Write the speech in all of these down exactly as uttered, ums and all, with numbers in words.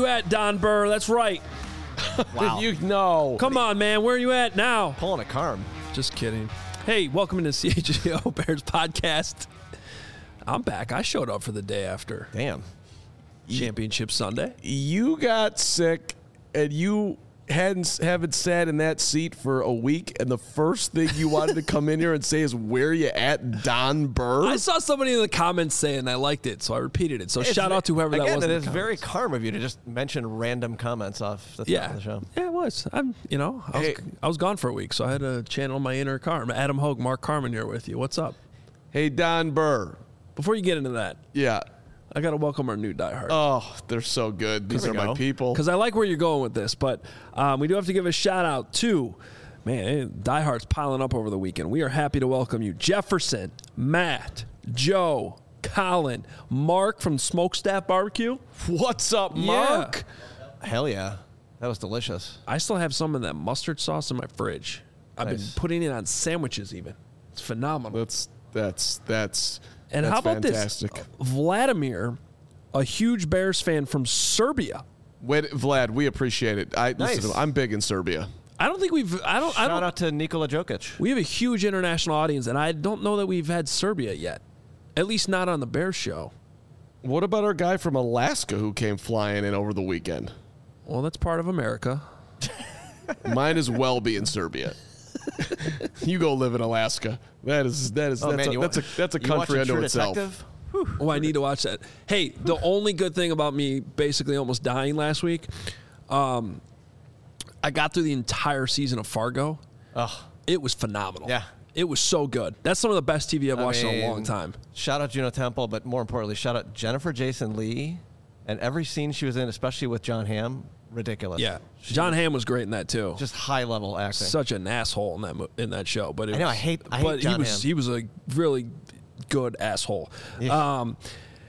at, Don Burr? That's right. Wow. you know. Come on, man. Where are you at now? Pulling a Carm. Just kidding. Hey, welcome to C H G O Bears podcast. I'm back. I showed up for the day after. Damn. Championship Sunday. You got sick, and you hadn't haven't sat in that seat for a week, and the first thing you wanted to come in here and say is, "Where you at, Don Burr?" I saw somebody in the comments saying I liked it, so I repeated it. So It's shout out to whoever again, that was. Again, in it is the very comments. Carm of you to just mention random comments off the top Yeah, of the show. yeah, it was. I'm, you know, I was, Hey. I was gone for a week, so I had to channel my inner Carm. Adam Hogue, Mark Carman here with you. What's up? Hey, Don Burr. Before you get into that, Yeah. I got to welcome our new diehard. Oh, they're so good. These There are we my go. people. Because I like where you're going with this, but um, we do have to give a shout out to, man, diehards piling up over the weekend. We are happy to welcome you, Jefferson, Matt, Joe, Colin, Mark from Smokestack Barbecue. What's up, Mark? Hell yeah. That was delicious. I still have some of that mustard sauce in my fridge. I've Nice. been putting it on sandwiches even. It's phenomenal. That's that's that's And that's how about fantastic. this? Vladimir, a huge Bears fan from Serbia. Wait, Vlad, we appreciate it. I Nice. listen, I'm big in Serbia. I don't think we've. I don't. I Shout don't. out to Nikola Jokic. We have a huge international audience, and I don't know that we've had Serbia yet. At least not on the Bears show. What about our guy from Alaska who came flying in over the weekend? Well, that's part of America. Might as well be in Serbia. You go live in Alaska. That is that is Oh, that's, man, a, you that's a wa- that's a you watch country True unto itself. Detective? Oh, I need to watch that. Hey, the only good thing about me basically almost dying last week, um, I got through the entire season of Fargo. Ugh. It was phenomenal. Yeah. It was so good. That's some of the best T V I've I watched in a long mean, time. Shout out Juno Temple, but more importantly, shout out Jennifer Jason Leigh and every scene she was in, especially with John Hamm. Ridiculous. Yeah. She- John Hamm was great in that too. Just high level acting. Such an asshole in that mo- in that show, but it I know, was, I hate- I hate but John he was Hamm. he was a really good asshole. Yeah. Um,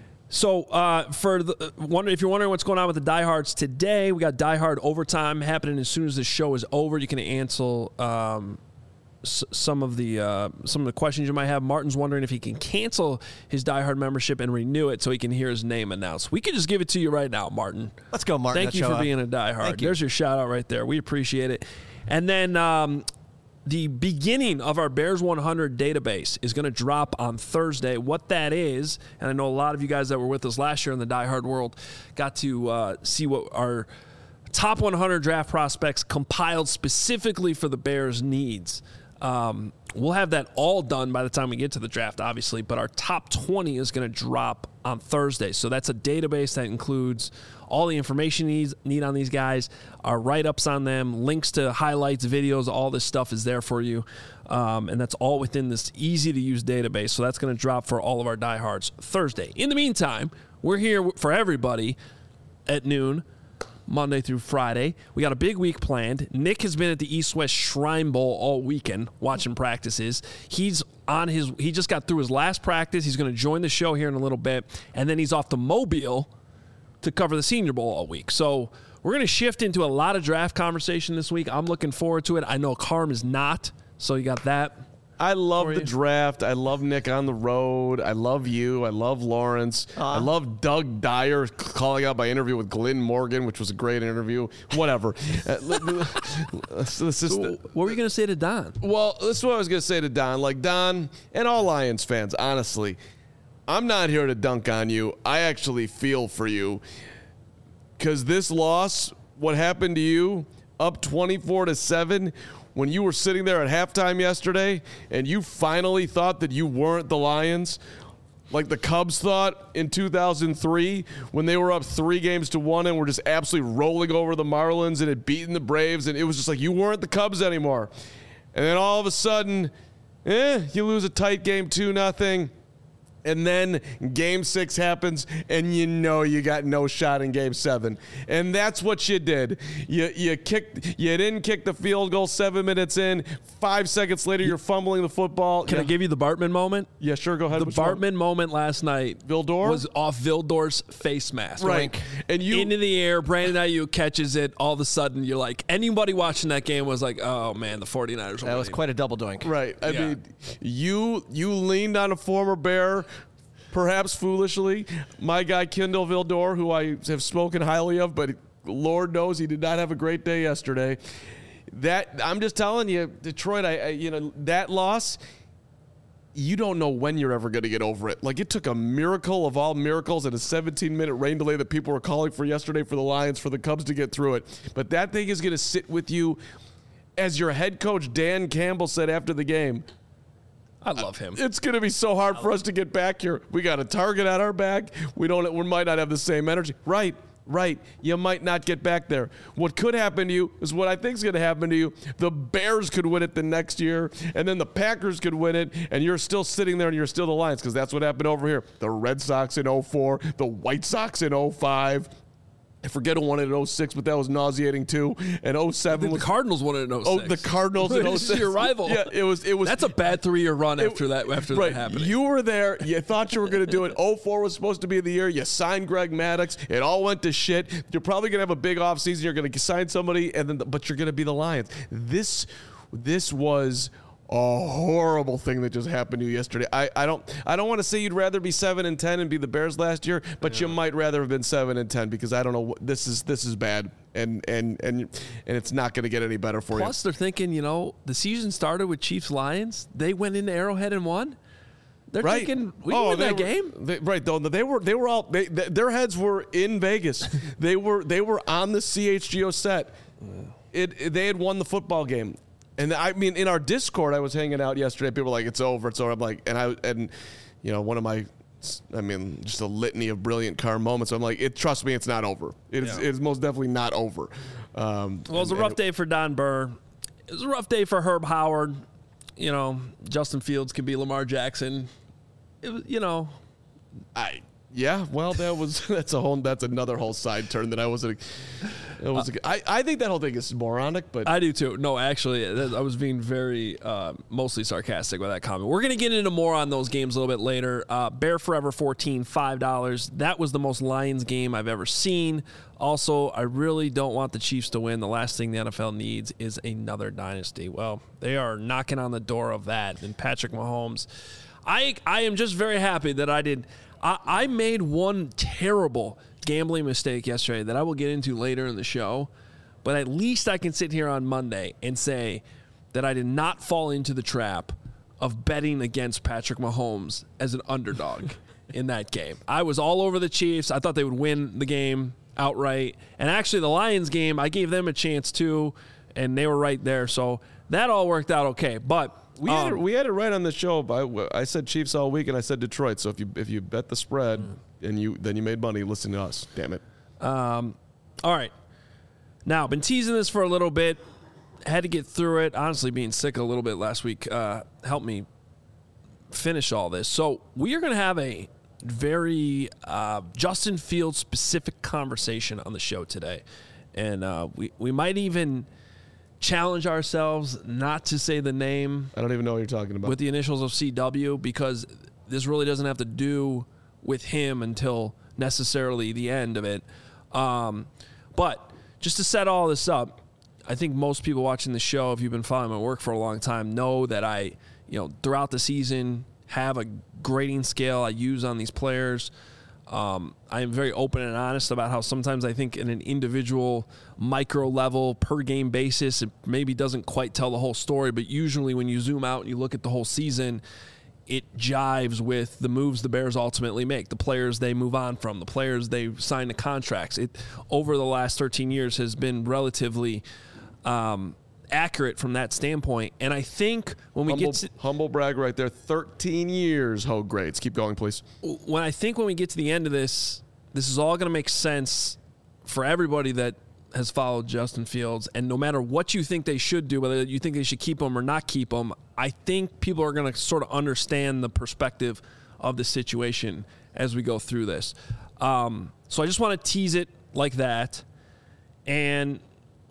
so uh, for the wonder if you're wondering what's going on with the diehards today, we got diehard overtime happening as soon as the show is over. You can answer um, s- some of the uh, some of the questions you might have. Martin's wondering if he can cancel his diehard membership and renew it so he can hear his name announced. We could just give it to you right now, Martin. Let's go, Martin. Thank Let's you show for up. being a diehard. Thank you. There's your shout out right there. We appreciate it. And then um, the beginning of our Bears one hundred database is going to drop on Thursday. What that is, and I know a lot of you guys that were with us last year in the diehard world got to uh, see what our top one hundred draft prospects compiled specifically for the Bears' needs. Um, we'll have that all done by the time we get to the draft, obviously, but our top twenty is going to drop on Thursday. So that's a database that includes all the information you need, need on these guys, our write-ups on them, links to highlights, videos, all this stuff is there for you. Um, and that's all within this easy-to-use database. So that's going to drop for all of our diehards Thursday. In the meantime, we're here for everybody at noon, Monday through Friday. We got a big week planned. Nick has been at the East-West Shrine Bowl all weekend watching practices. He's on his, he just got through his last practice. He's going to join the show here in a little bit. And then he's off to Mobile to cover the Senior Bowl all week. So we're going to shift into a lot of draft conversation this week. I'm looking forward to it. I know Carm is not, so you got that. I love For the you. draft. I love Nick on the road. I love you. I love Lawrence. I love Doug Dyer calling out my interview with Glenn Morgan, which was a great interview. Whatever. Uh, let- let's- let's just- So what were you going to say to Don? well, this is what I was going to say to Don. Like, Don and all Lions fans, honestly, I'm not here to dunk on you. I actually feel for you because this loss, what happened to you, up twenty-four to seven, when you were sitting there at halftime yesterday and you finally thought that you weren't the Lions, like the Cubs thought in two thousand three when they were up three games to one and were just absolutely rolling over the Marlins and had beaten the Braves, and it was just like you weren't the Cubs anymore. And then all of a sudden, eh, you lose a tight game two nothing. And then game six happens, and you know you got no shot in game seven. And that's what you did. You you kicked. You didn't kick the field goal seven minutes in. Five seconds later, you're fumbling the football. Can yeah. I give you the Bartman moment? Yeah, sure. Go ahead. The Which one? Bartman moment last night Vildor? was off Vildor's face mask. Right. And you- into the air, Brandon Ayuk catches it. All of a sudden, you're like, anybody watching that game was like, oh man, the 49ers are That was winning. quite a double doink. Right. I Yeah. mean, you you leaned on a former Bear, perhaps foolishly. My guy Kendall Vildor, who I have spoken highly of, but Lord knows he did not have a great day yesterday. That I'm just telling you, Detroit. I, I you know that loss. You don't know when you're ever going to get over it. Like, it took a miracle of all miracles and a seventeen-minute rain delay that people were calling for yesterday for the Lions, for the Cubs to get through it. But that thing is going to sit with you. As your head coach, Dan Campbell, said after the game, I love him. It's going to be so hard for us to get back here. We got a target on our back. We don't. We might not have the same energy. Right. Right, you might not get back there. What could happen to you is what I think is going to happen to you. The Bears could win it the next year, and then the Packers could win it, and you're still sitting there and you're still the Lions, because that's what happened over here. The Red Sox in oh four, the White Sox in oh five. I forget who won it in oh six, but that was nauseating too. And oh seven the was Cardinals won it in oh six. Oh, the Cardinals in oh six. This is your rival. Yeah, it was. It was. That's a bad three-year run after it, that. After right. that happening, You were there. You thought you were going to do it. oh four was supposed to be the year. You signed Greg Maddux. It all went to shit. You're probably going to have a big offseason. You're going to sign somebody, and then, but you're going to be the Lions. This, this was a horrible thing that just happened to you yesterday. I, I don't I don't want to say you'd rather be seven and ten and be the Bears last year, but yeah. You might rather have been seven and ten, because I don't know. This is this is bad, and and and and it's not going to get any better for Plus, you. Plus, they're thinking, you know, the season started with Chiefs Lions. They went into Arrowhead and won. They're right. thinking we oh, win that were, game. They, right, though they were they were all they, they, their heads were in Vegas. they were they were on the C H G O set. It, it they had won the football game. And I mean, in our Discord, I was hanging out yesterday. People were like, "It's over, it's over." I'm like, and I and you know, one of my, I mean, just a litany of brilliant car moments. I'm like, it. Trust me, it's not over. It is. Yeah. It is most definitely not over. Um, well, it was a rough day for Don Burr. It was a rough day for Herb Howard. You know, Justin Fields could be Lamar Jackson. It was, you know, I. Yeah, well, that was that's a whole that's another whole side turn that I wasn't. It was. Uh, I I think that whole thing is moronic, but I do too. No, actually, I was being very uh, mostly sarcastic with that comment. We're gonna get into more on those games a little bit later. Uh, Bear Forever fourteen, five dollars. That was the most Lions game I've ever seen. Also, I really don't want the Chiefs to win. The last thing the N F L needs is another dynasty. Well, they are knocking on the door of that. And Patrick Mahomes, I I am just very happy that I did. I, I made one terrible gambling mistake yesterday that I will get into later in the show, but at least I can sit here on Monday and say that I did not fall into the trap of betting against Patrick Mahomes as an underdog in that game. I was all over the Chiefs. I thought they would win the game outright. And actually, the Lions game, I gave them a chance too, and they were right there. So that all worked out okay. But We had, um, it, we had it right on the show. I, I said Chiefs all week, and I said Detroit. So if you if you bet the spread and you then you made money, listen to us. Damn it. Um, all right. Now, been teasing this for a little bit. Had to get through it. Honestly, being sick a little bit last week uh, helped me finish all this. So we are going to have a very uh, Justin Fields specific conversation on the show today, and uh, we we might even challenge ourselves not to say the name. I don't even know what you're talking about. With the initials of C W, because this really doesn't have to do with him until necessarily the end of it. Um, but just to set all this up, I think most people watching the show, if you've been following my work for a long time, know that I, you know, throughout the season have a grading scale I use on these players. Um, I am very open and honest about how sometimes I think in an individual micro level per game basis, it maybe doesn't quite tell the whole story, but usually when you zoom out and you look at the whole season, it jives with the moves the Bears ultimately make, the players they move on from, the players they sign to contracts. It over the last thirteen years has been relatively um, accurate from that standpoint. And I think when we humble, get to humble brag right there, thirteen years, Hogue grades. Keep going, please. When I think when we get to the end of this, this is all going to make sense for everybody that has followed Justin Fields. And no matter what you think they should do, whether you think they should keep him or not keep him, I think people are going to sort of understand the perspective of the situation as we go through this. Um, so I just want to tease it like that. And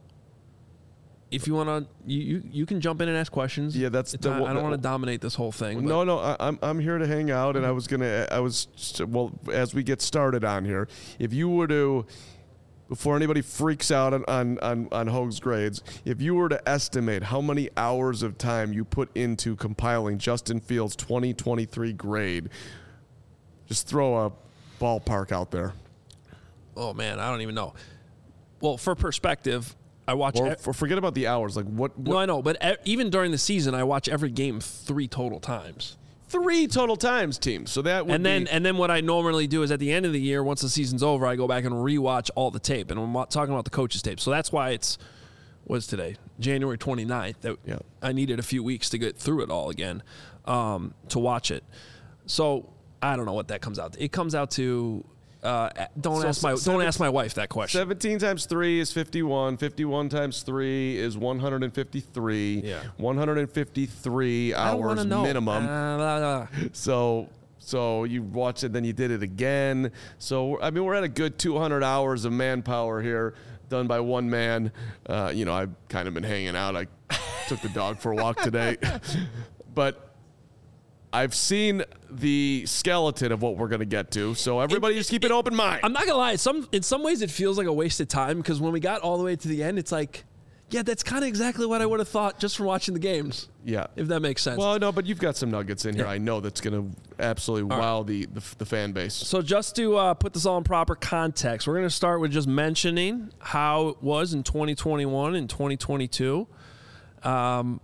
if you want to, you, you you can jump in and ask questions. Yeah, that's. The, the, I don't want to dominate this whole thing. No, no, I, I'm I'm here to hang out, and I was gonna, I was well as we get started on here. If you were to, before anybody freaks out on on on, on Hogue's grades, if you were to estimate how many hours of time you put into compiling Justin Fields' twenty twenty-three grade, just throw a ballpark out there. Oh man, I don't even know. well, for perspective, I watch. Or e- for, forget about the hours. Like what? what no, I know, but e- even during the season, I watch every game three total times. Three total times, team. So that would And then, be, and then what I normally do is at the end of the year, once the season's over, I go back and rewatch all the tape. And I'm not talking about the coaches' tape. So that's why it's what's today, January twenty-ninth. That Yeah. I needed a few weeks to get through it all again, um, to watch it. So I don't know what that comes out to. It comes out to. Uh, don't So ask my seven- don't ask my wife that question. seventeen times three is fifty-one. fifty-one times three is one hundred fifty-three. Yeah. one hundred fifty-three I don't hours wanna know. minimum. Uh, blah, blah. So so you watch it, then you did it again. So I mean, we're at a good two hundred hours of manpower here, done by one man. Uh, you know, I've kind of been hanging out. I took the dog for a walk today, but I've seen the skeleton of what we're going to get to. So everybody, It- just keep it- an open mind. I'm not gonna lie. Some in some ways it feels like a waste of time because when we got all the way to the end, it's like, yeah, that's kind of exactly what I would have thought just from watching the games. Yeah. If that makes sense. Well, no, but you've got some nuggets in here. Yeah. I know that's going to absolutely All wow the, the the fan base. So just to uh, put this all in proper context, we're going to start with just mentioning how it was in twenty twenty-one and twenty twenty-two. Um,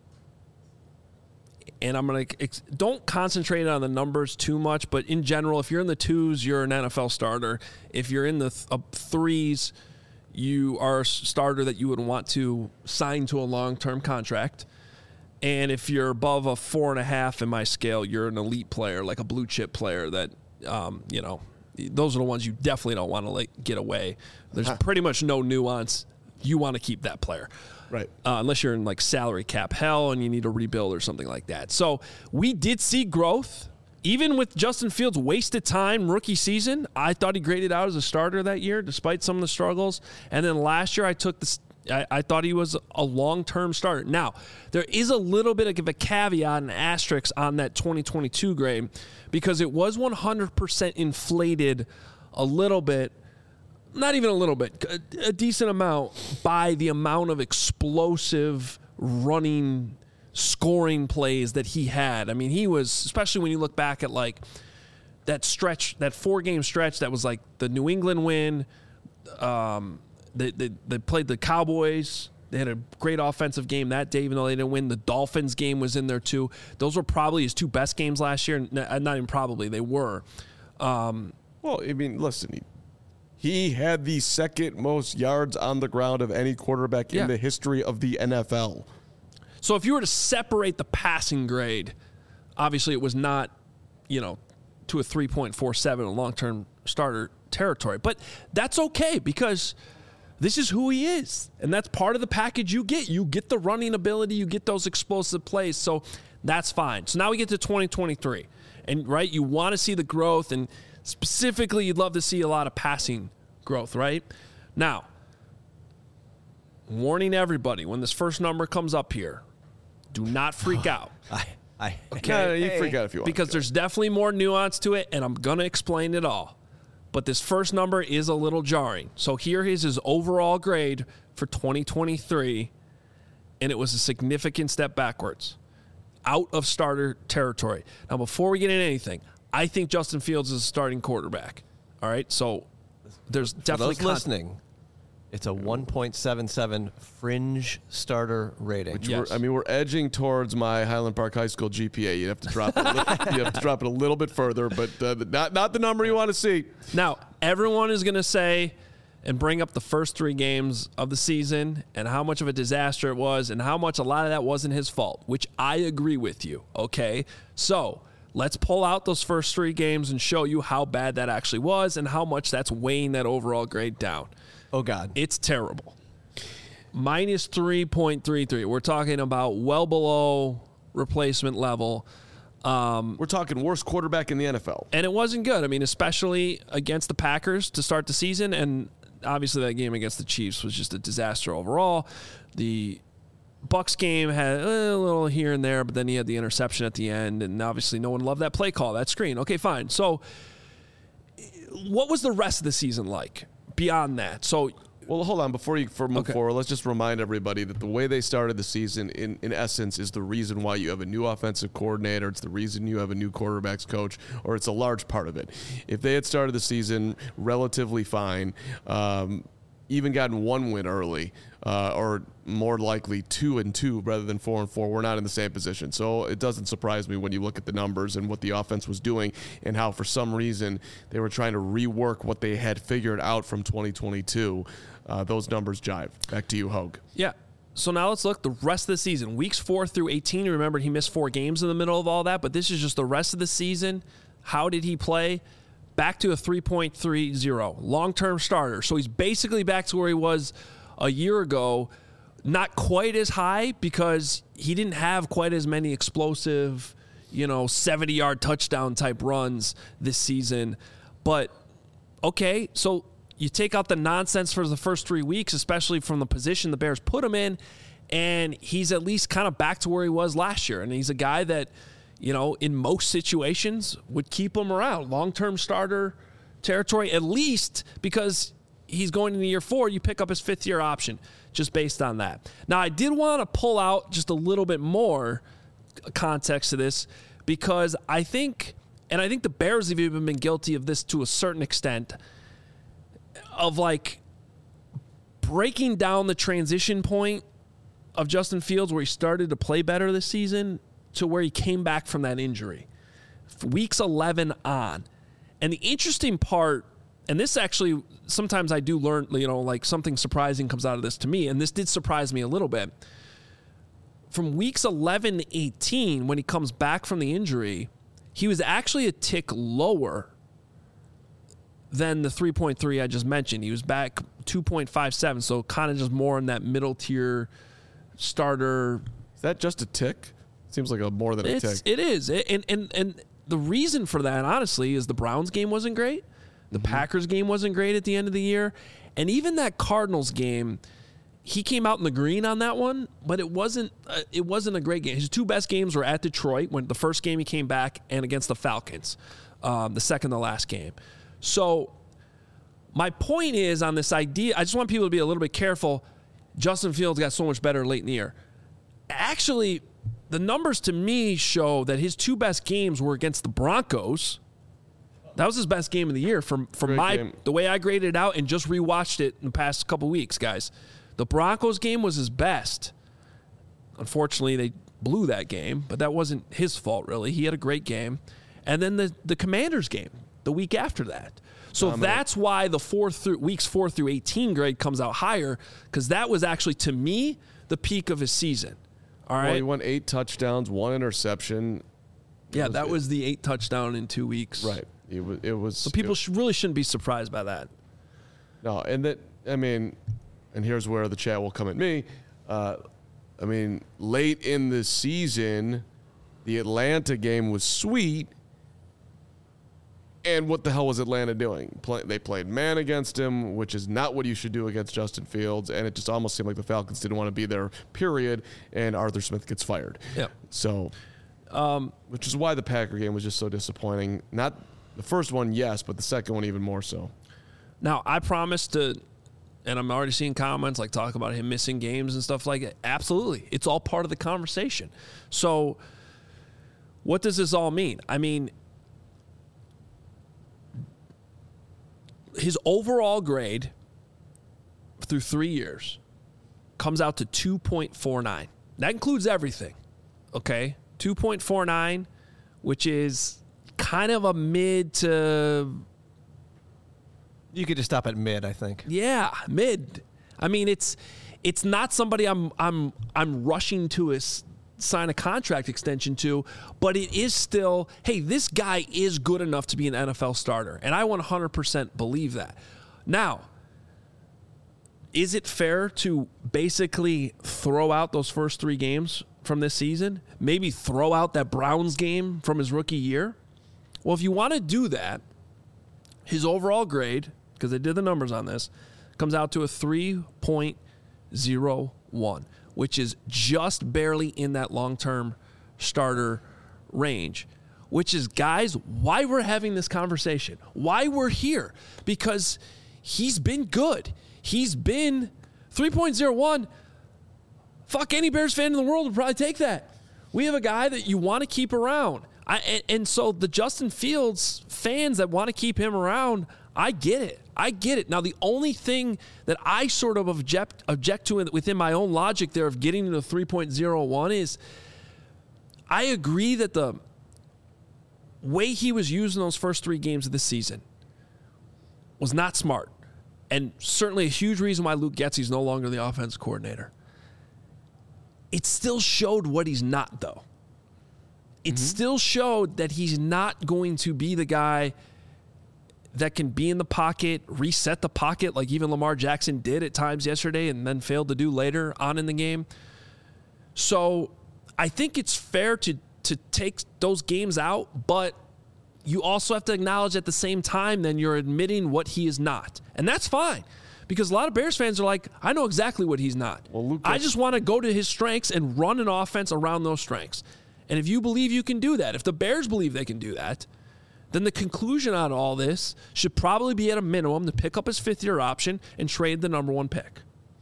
and I'm going to ex- don't concentrate on the numbers too much, but in general, if you're in the twos, you're an N F L starter. If you're in the th- uh, threes, you are a starter that you would want to sign to a long-term contract. And if you're above a four and a half in my scale, you're an elite player, like a blue chip player that, um, you know, those are the ones you definitely don't want to like get away. There's pretty much no nuance. You want to keep that player. Right. Uh, unless you're in like salary cap hell and you need to rebuild or something like that. So we did see growth. Even with Justin Fields' wasted time rookie season, I thought he graded out as a starter that year, despite some of the struggles. And then last year, I took this. I, I thought he was a long-term starter. Now, there is a little bit of a caveat and asterisk on that twenty twenty-two grade because it was one hundred percent inflated a little bit. Not even a little bit, a, a decent amount by the amount of explosive running, scoring plays that he had. I mean, he was, especially when you look back at like that stretch, that four-game stretch that was like the New England win. Um, they, they they played the Cowboys. They had a great offensive game that day, even though they didn't win. The Dolphins game was in there too. Those were probably his two best games last year. Not even probably, they were. Um, Well, I mean, listen, he, he had the second most yards on the ground of any quarterback Yeah. in the history of the N F L. So if you were to separate the passing grade, obviously it was not, you know, to a three point four seven, a long-term starter territory. But that's okay because this is who he is. And that's part of the package you get. You get the running ability, you get those explosive plays. So that's fine. So now we get to twenty twenty-three. And, right, you want to see the growth, and specifically you'd love to see a lot of passing growth, right? Now, warning everybody, when this first number comes up here, do not freak out. I, I, Okay. No, no, you freak out if you want. Because there's definitely more nuance to it, and I'm going to explain it all. But this first number is a little jarring. So here is his overall grade for twenty twenty-three, and it was a significant step backwards, out of starter territory. Now, before we get into anything, I think Justin Fields is a starting quarterback. All right? So there's For definitely those listening, it's a one point seven seven fringe starter rating. Which Yes. we're, I mean, we're edging towards my Highland Park High School G P A. You have to drop it. A little, you have to drop it a little bit further, but uh, not not the number you want to see. Now, everyone is going to say and bring up the first three games of the season and how much of a disaster it was and how much a lot of that wasn't his fault, which I agree with you, okay? So let's pull out those first three games and show you how bad that actually was and how much that's weighing that overall grade down. Oh, God. It's terrible. Minus three point three three. We're talking about well below replacement level. Um, We're talking worst quarterback in the N F L. And it wasn't good. I mean, especially against the Packers to start the season. And obviously that game against the Chiefs was just a disaster overall. The Bucs game had a little here and there, but then he had the interception at the end. And obviously no one loved that play call, that screen. Okay, fine. So what was the rest of the season like beyond that? So Well, hold on. Before you for move Okay. forward, let's just remind everybody that the way they started the season, in, in essence, is the reason why you have a new offensive coordinator. It's the reason you have a new quarterbacks coach, or it's a large part of it. If they had started the season relatively fine, um, even gotten one win early, uh, or more likely two and two rather than four and four, we're not in the same position. So it doesn't surprise me when you look at the numbers and what the offense was doing and how for some reason they were trying to rework what they had figured out from twenty twenty-two. Uh, those numbers jive. Back to you, Hogue. Yeah. So now let's look the rest of the season. Weeks four through eighteen. Remember, he missed four games in the middle of all that, but this is just the rest of the season. How did he play? Back to a three point three oh. Long-term starter. So he's basically back to where he was a year ago. Not quite as high because he didn't have quite as many explosive, you know, seventy-yard touchdown type runs this season. But, okay, so you take out the nonsense for the first three weeks, especially from the position the Bears put him in, and he's at least kind of back to where he was last year. And he's a guy that, you know, in most situations would keep him around. Long-term starter territory, at least because he's going into year four, you pick up his fifth-year option just based on that. Now, I did want to pull out just a little bit more context to this because I think, and I think the Bears have even been guilty of this to a certain extent, of like breaking down the transition point of Justin Fields where he started to play better this season to where he came back from that injury. Weeks eleven on. And the interesting part, and this actually, sometimes I do learn, you know, like something surprising comes out of this to me, and this did surprise me a little bit. From weeks eleven to eighteen, when he comes back from the injury, he was actually a tick lower than the three point three I just mentioned. He was back two point five seven, so kind of just more in that middle tier starter. Is that just a tick? Seems like a more than a It's, tick. it is. And, and, and the reason for that, honestly, is the Browns game wasn't great. The mm-hmm. Packers game wasn't great at the end of the year. And even that Cardinals game, he came out in the green on that one, but it wasn't uh, it wasn't a great game. His two best games were at Detroit, when the first game he came back, and against the Falcons, um, the second to last game. So my point is on this idea, I just want people to be a little bit careful. Justin Fields got so much better late in the year. Actually, the numbers to me show that his two best games were against the Broncos. That was his best game of the year from, from Great my game. the way I graded it out and just rewatched it in the past couple weeks, guys. The Broncos game was his best. Unfortunately, they blew that game, but that wasn't his fault, really. He had a great game. And then the, the Commanders game the week after that. So Dominant. That's why the four through weeks four through eighteen grade comes out higher, because that was actually, to me, the peak of his season. All right. Well, he won eight touchdowns, one interception. Yeah, was that it. was the eight touchdown in two weeks. Right. It was. It was. So people it, sh- really shouldn't be surprised by that. No, and that I mean, and here's where the chat will come at me. Uh, I mean, late in the season, the Atlanta game was sweet. And what the hell was Atlanta doing? Play, they played man against him, which is not what you should do against Justin Fields. And it just almost seemed like the Falcons didn't want to be there, period. And Arthur Smith gets fired. Yeah. So, um, which is why the Packer game was just so disappointing. Not the first one, yes, but the second one even more so. Now, I promised to, and I'm already seeing comments like talk about him missing games and stuff like that. Absolutely. It's all part of the conversation. So what does this all mean? I mean, his overall grade through three years comes out to two point four nine. That includes everything, okay? two point four nine, which is kind of a mid to... You could just stop at mid, I think. Yeah, mid. I mean, it's it's not somebody I'm I'm I'm rushing to a, sign a contract extension to, but it is still, hey, this guy is good enough to be an N F L starter, and I one hundred percent believe that. Now, is it fair to basically throw out those first three games from this season? Maybe throw out that Browns game from his rookie year? Well, if you want to do that, his overall grade, because they did the numbers on this, comes out to a three point oh one, which is just barely in that long-term starter range, which is, guys, why we're having this conversation, why we're here, because he's been good. He's been three point oh one. Fuck, any Bears fan in the world would probably take that. We have a guy that you want to keep around. I, and, and so the Justin Fields fans that want to keep him around, I get it. I get it. Now, the only thing that I sort of object, object to within my own logic there of getting to three point oh one is I agree that the way he was used in those first three games of the season was not smart. And certainly a huge reason why Luke Getsy is no longer the offensive coordinator. It still showed what he's not, though. It mm-hmm. still showed that he's not going to be the guy that can be in the pocket, reset the pocket like even Lamar Jackson did at times yesterday and then failed to do later on in the game. So I think it's fair to to take those games out, but you also have to acknowledge at the same time then you're admitting what he is not. And that's fine. Because a lot of Bears fans are like, I know exactly what he's not. Well, Luke, I just want to go to his strengths and run an offense around those strengths. And if you believe you can do that, if the Bears believe they can do that, then the conclusion on all this should probably be at a minimum to pick up his fifth-year option and trade the number one pick.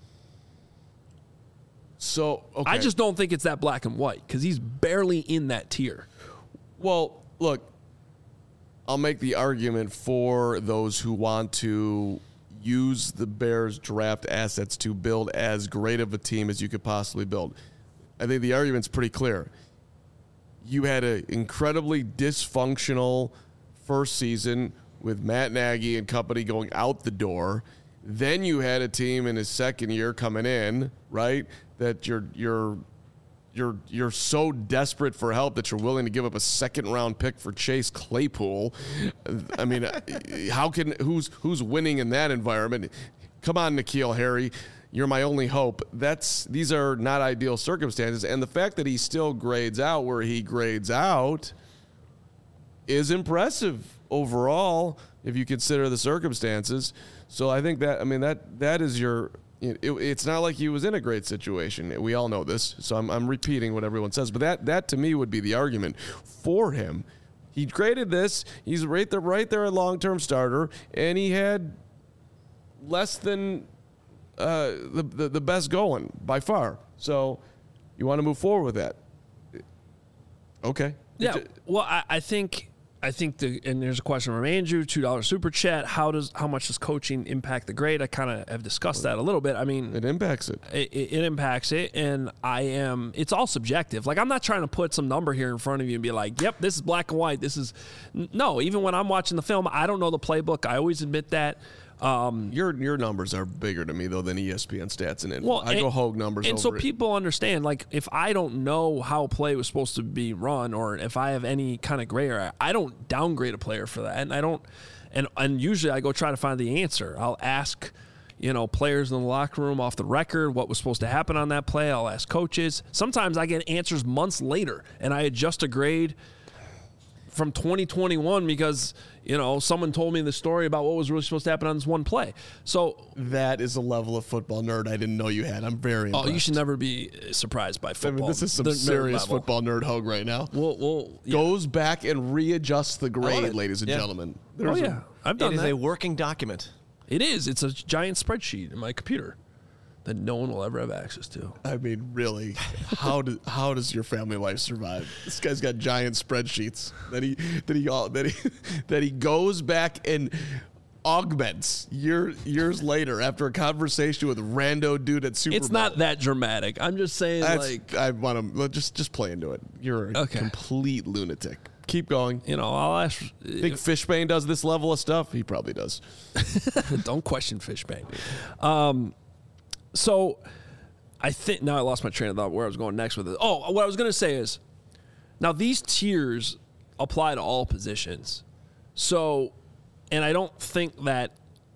So, okay. I just don't think it's that black and white because he's barely in that tier. Well, look, I'll make the argument for those who want to use the Bears draft assets to build as great of a team as you could possibly build. I think the argument's pretty clear. You had an incredibly dysfunctional first season with Matt Nagy and company going out the door. Then you had a team in his second year coming in, right? That you're you're you're you're so desperate for help that you're willing to give up a second round pick for Chase Claypool. I mean, how can who's who's winning in that environment? Come on, N'Keal Harry. You're my only hope. That's these are not ideal circumstances, and the fact that he still grades out where he grades out is impressive overall if you consider the circumstances. So I think that I mean that that is your. It, it, it's not like he was in a great situation. We all know this, so I'm, I'm repeating what everyone says. But that that to me would be the argument for him. He graded this. He's right there, right there, a long-term starter, and he had less than. Uh, the, the the best going by far. So you want to move forward with that? Okay. Yeah. Well, I, I think I think the and there's a question from Andrew, two dollar super chat. How does how much does coaching impact the grade? I kind of have discussed that a little bit. I mean, it impacts it. it. It impacts it, and I am. It's all subjective. Like I'm not trying to put some number here in front of you and be like, "Yep, this is black and white." This is no. Even when I'm watching the film, I don't know the playbook. I always admit that. Um, your your numbers are bigger to me though than E S P N stats and info. Well, I and, go Hogue numbers, and over so it. people understand. Like if I don't know how a play was supposed to be run, or if I have any kind of gray area, I don't downgrade a player for that, and I don't. And and usually I go try to find the answer. I'll ask, you know, players in the locker room off the record what was supposed to happen on that play. I'll ask coaches. Sometimes I get answers months later, and I adjust a grade from twenty twenty-one because, you know, someone told me the story about what was really supposed to happen on this one play. So that is a level of football nerd I didn't know you had. I'm very impressed. Oh, you should never be surprised by football. I mean, this is some the serious football nerd Hogue right now. Well, well yeah. Goes back and readjusts the grade, ladies and yeah. gentlemen. There's oh, yeah. A, I've done it that. It is a working document. It is. It's a giant spreadsheet in my computer that no one will ever have access to. I mean, really, how do, how does your family life survive? This guy's got giant spreadsheets that he that he that he that he goes back and augments year, years later after a conversation with a rando dude at Super It's Bowl. not that dramatic. I'm just saying, That's, like, I want to just just play into it. You're a okay. complete lunatic. Keep going. You know, I'll ask. Think Fishbane does this level of stuff? He probably does. Don't question Fishbane. Um. So, I think now I lost my train of thought where I was going next with it. Oh, what I was going to say is, now these tiers apply to all positions. So, and I don't think that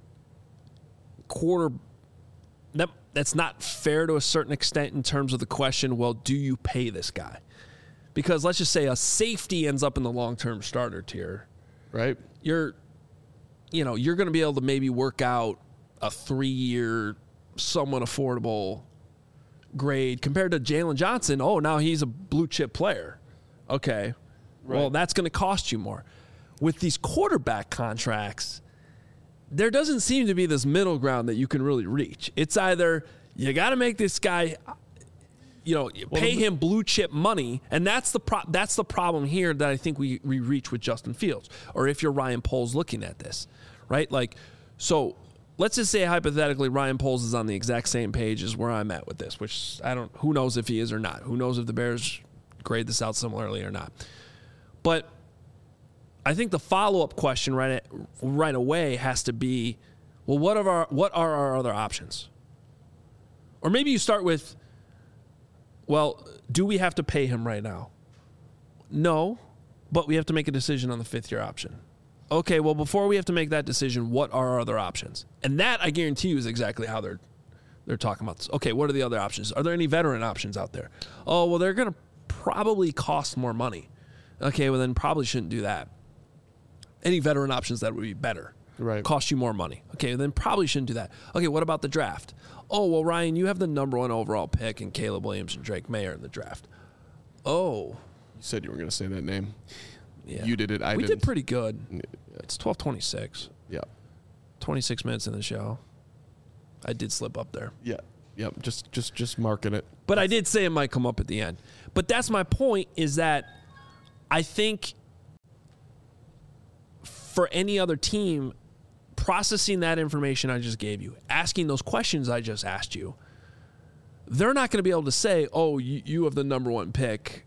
quarter that that's not fair to a certain extent in terms of the question. Well, do you pay this guy? Because let's just say a safety ends up in the long-term starter tier, right? You're, you know, you're going to be able to maybe work out a three-year. Somewhat affordable grade compared to Jalen Johnson. Oh, now he's a blue chip player. Okay. Right. Well, that's going to cost you more. With these quarterback contracts, there doesn't seem to be this middle ground that you can really reach. It's either you got to make this guy, you know, well, pay him blue chip money, and that's the pro- that's the problem here that I think we, we reach with Justin Fields, or if you're Ryan Poles looking at this, right? Like, so let's just say hypothetically Ryan Poles is on the exact same page as where I'm at with this, which I don't, who knows if he is or not. Who knows if the Bears grade this out similarly or not. But I think the follow-up question right at, right away has to be, well, what are our what are our other options? Or maybe you start with, well, do we have to pay him right now? No, but we have to make a decision on the fifth-year option. Okay, well, before we have to make that decision, what are our other options? And that, I guarantee you, is exactly how they're they're talking about this. Okay, what are the other options? Are there any veteran options out there? Oh, well, they're going to probably cost more money. Okay, well, then probably shouldn't do that. Any veteran options that would be better. Right. Cost you more money. Okay, then probably shouldn't do that. Okay, what about the draft? Oh, well, Ryan, you have the number one overall pick in Caleb Williams and Drake Mayer in the draft. Oh. You said you were going to say that name. Yeah. You did it. I we didn't. did pretty good. It's twelve twenty-six. Yeah. twenty-six minutes in the show. I did slip up there. Yeah. Yep. Just, just, just marking it. But I did say it might come up at the end. But that's my point, is that I think for any other team, processing that information I just gave you, asking those questions I just asked you, they're not going to be able to say, oh, you, you have the number one pick,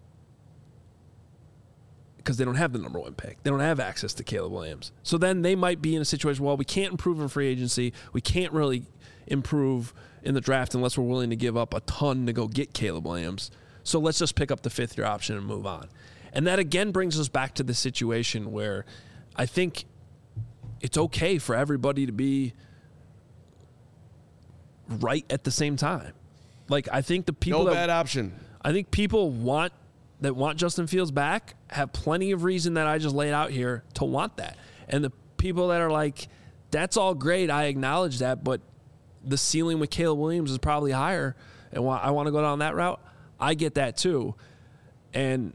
because they don't have the number one pick. They don't have access to Caleb Williams. So then they might be in a situation, well, we can't improve in free agency. We can't really improve in the draft unless we're willing to give up a ton to go get Caleb Williams. So let's just pick up the fifth-year option and move on. And that, again, brings us back to the situation where I think it's okay for everybody to be right at the same time. Like, I think the people No that, bad option. I think people want that want Justin Fields back have plenty of reason that I just laid out here to want that. And the people that are like, that's all great, I acknowledge that, but the ceiling with Caleb Williams is probably higher, and I want to go down that route, I get that too. And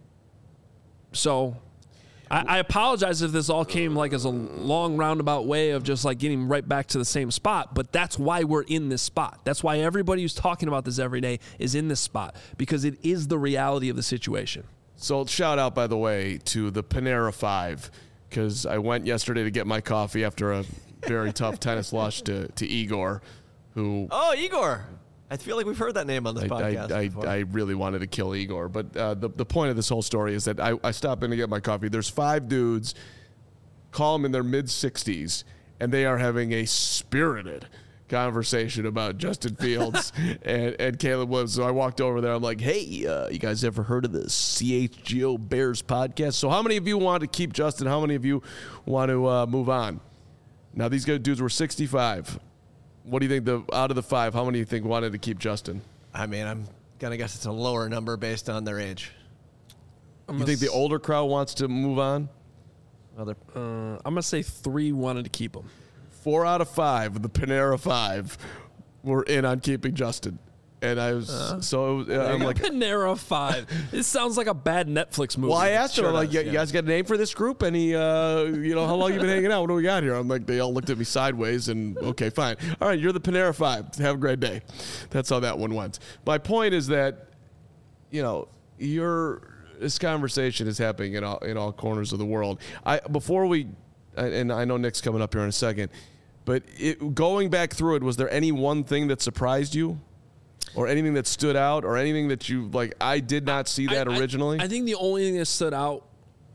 so I, I apologize if this all came like as a long roundabout way of just like getting right back to the same spot, but that's why we're in this spot. That's why everybody who's talking about this every day is in this spot, because it is the reality of the situation. So shout out, by the way, to the Panera Five, because I went yesterday to get my coffee after a very tough tennis loss to, to Igor, who... Oh, Igor. I feel like we've heard that name on this I, podcast I, before. I, I really wanted to kill Igor. But uh, the, the point of this whole story is that I, I stopped in to get my coffee. There's five dudes, call them in their mid-sixties, and they are having a spirited conversation about Justin Fields and, and Caleb Williams. So I walked over there. I'm like, hey, uh, you guys ever heard of the C H G O Bears podcast? So how many of you want to keep Justin? How many of you want to uh, move on? Now, these guys, dudes were sixty-five. What do you think, the out of the five, how many do you think wanted to keep Justin? I mean, I'm going to guess it's a lower number based on their age. I'm You think the older crowd wants to move on? Well, they're- Uh, I'm going to say three wanted to keep him. Four out of five, the Panera Five, were in on keeping Justin. And I was, Uh, so it was, uh, I'm like, Panera Five. This sounds like a bad Netflix movie. well, I asked him, Sure I'm like, does, you yeah. guys got a name for this group? And he, uh, you know, how long you been hanging out? What do we got here? I'm like, they all looked at me sideways and, okay, fine. All right, you're the Panera Five. Have a great day. That's how that one went. My point is that, you know, you're, this conversation is happening in all, in all corners of the world. I Before we, and I know Nick's coming up here in a second, but it, going back through it, was there any one thing that surprised you? Or anything that stood out, or anything that you, like, I did not see that I- I- originally? I think the only thing that stood out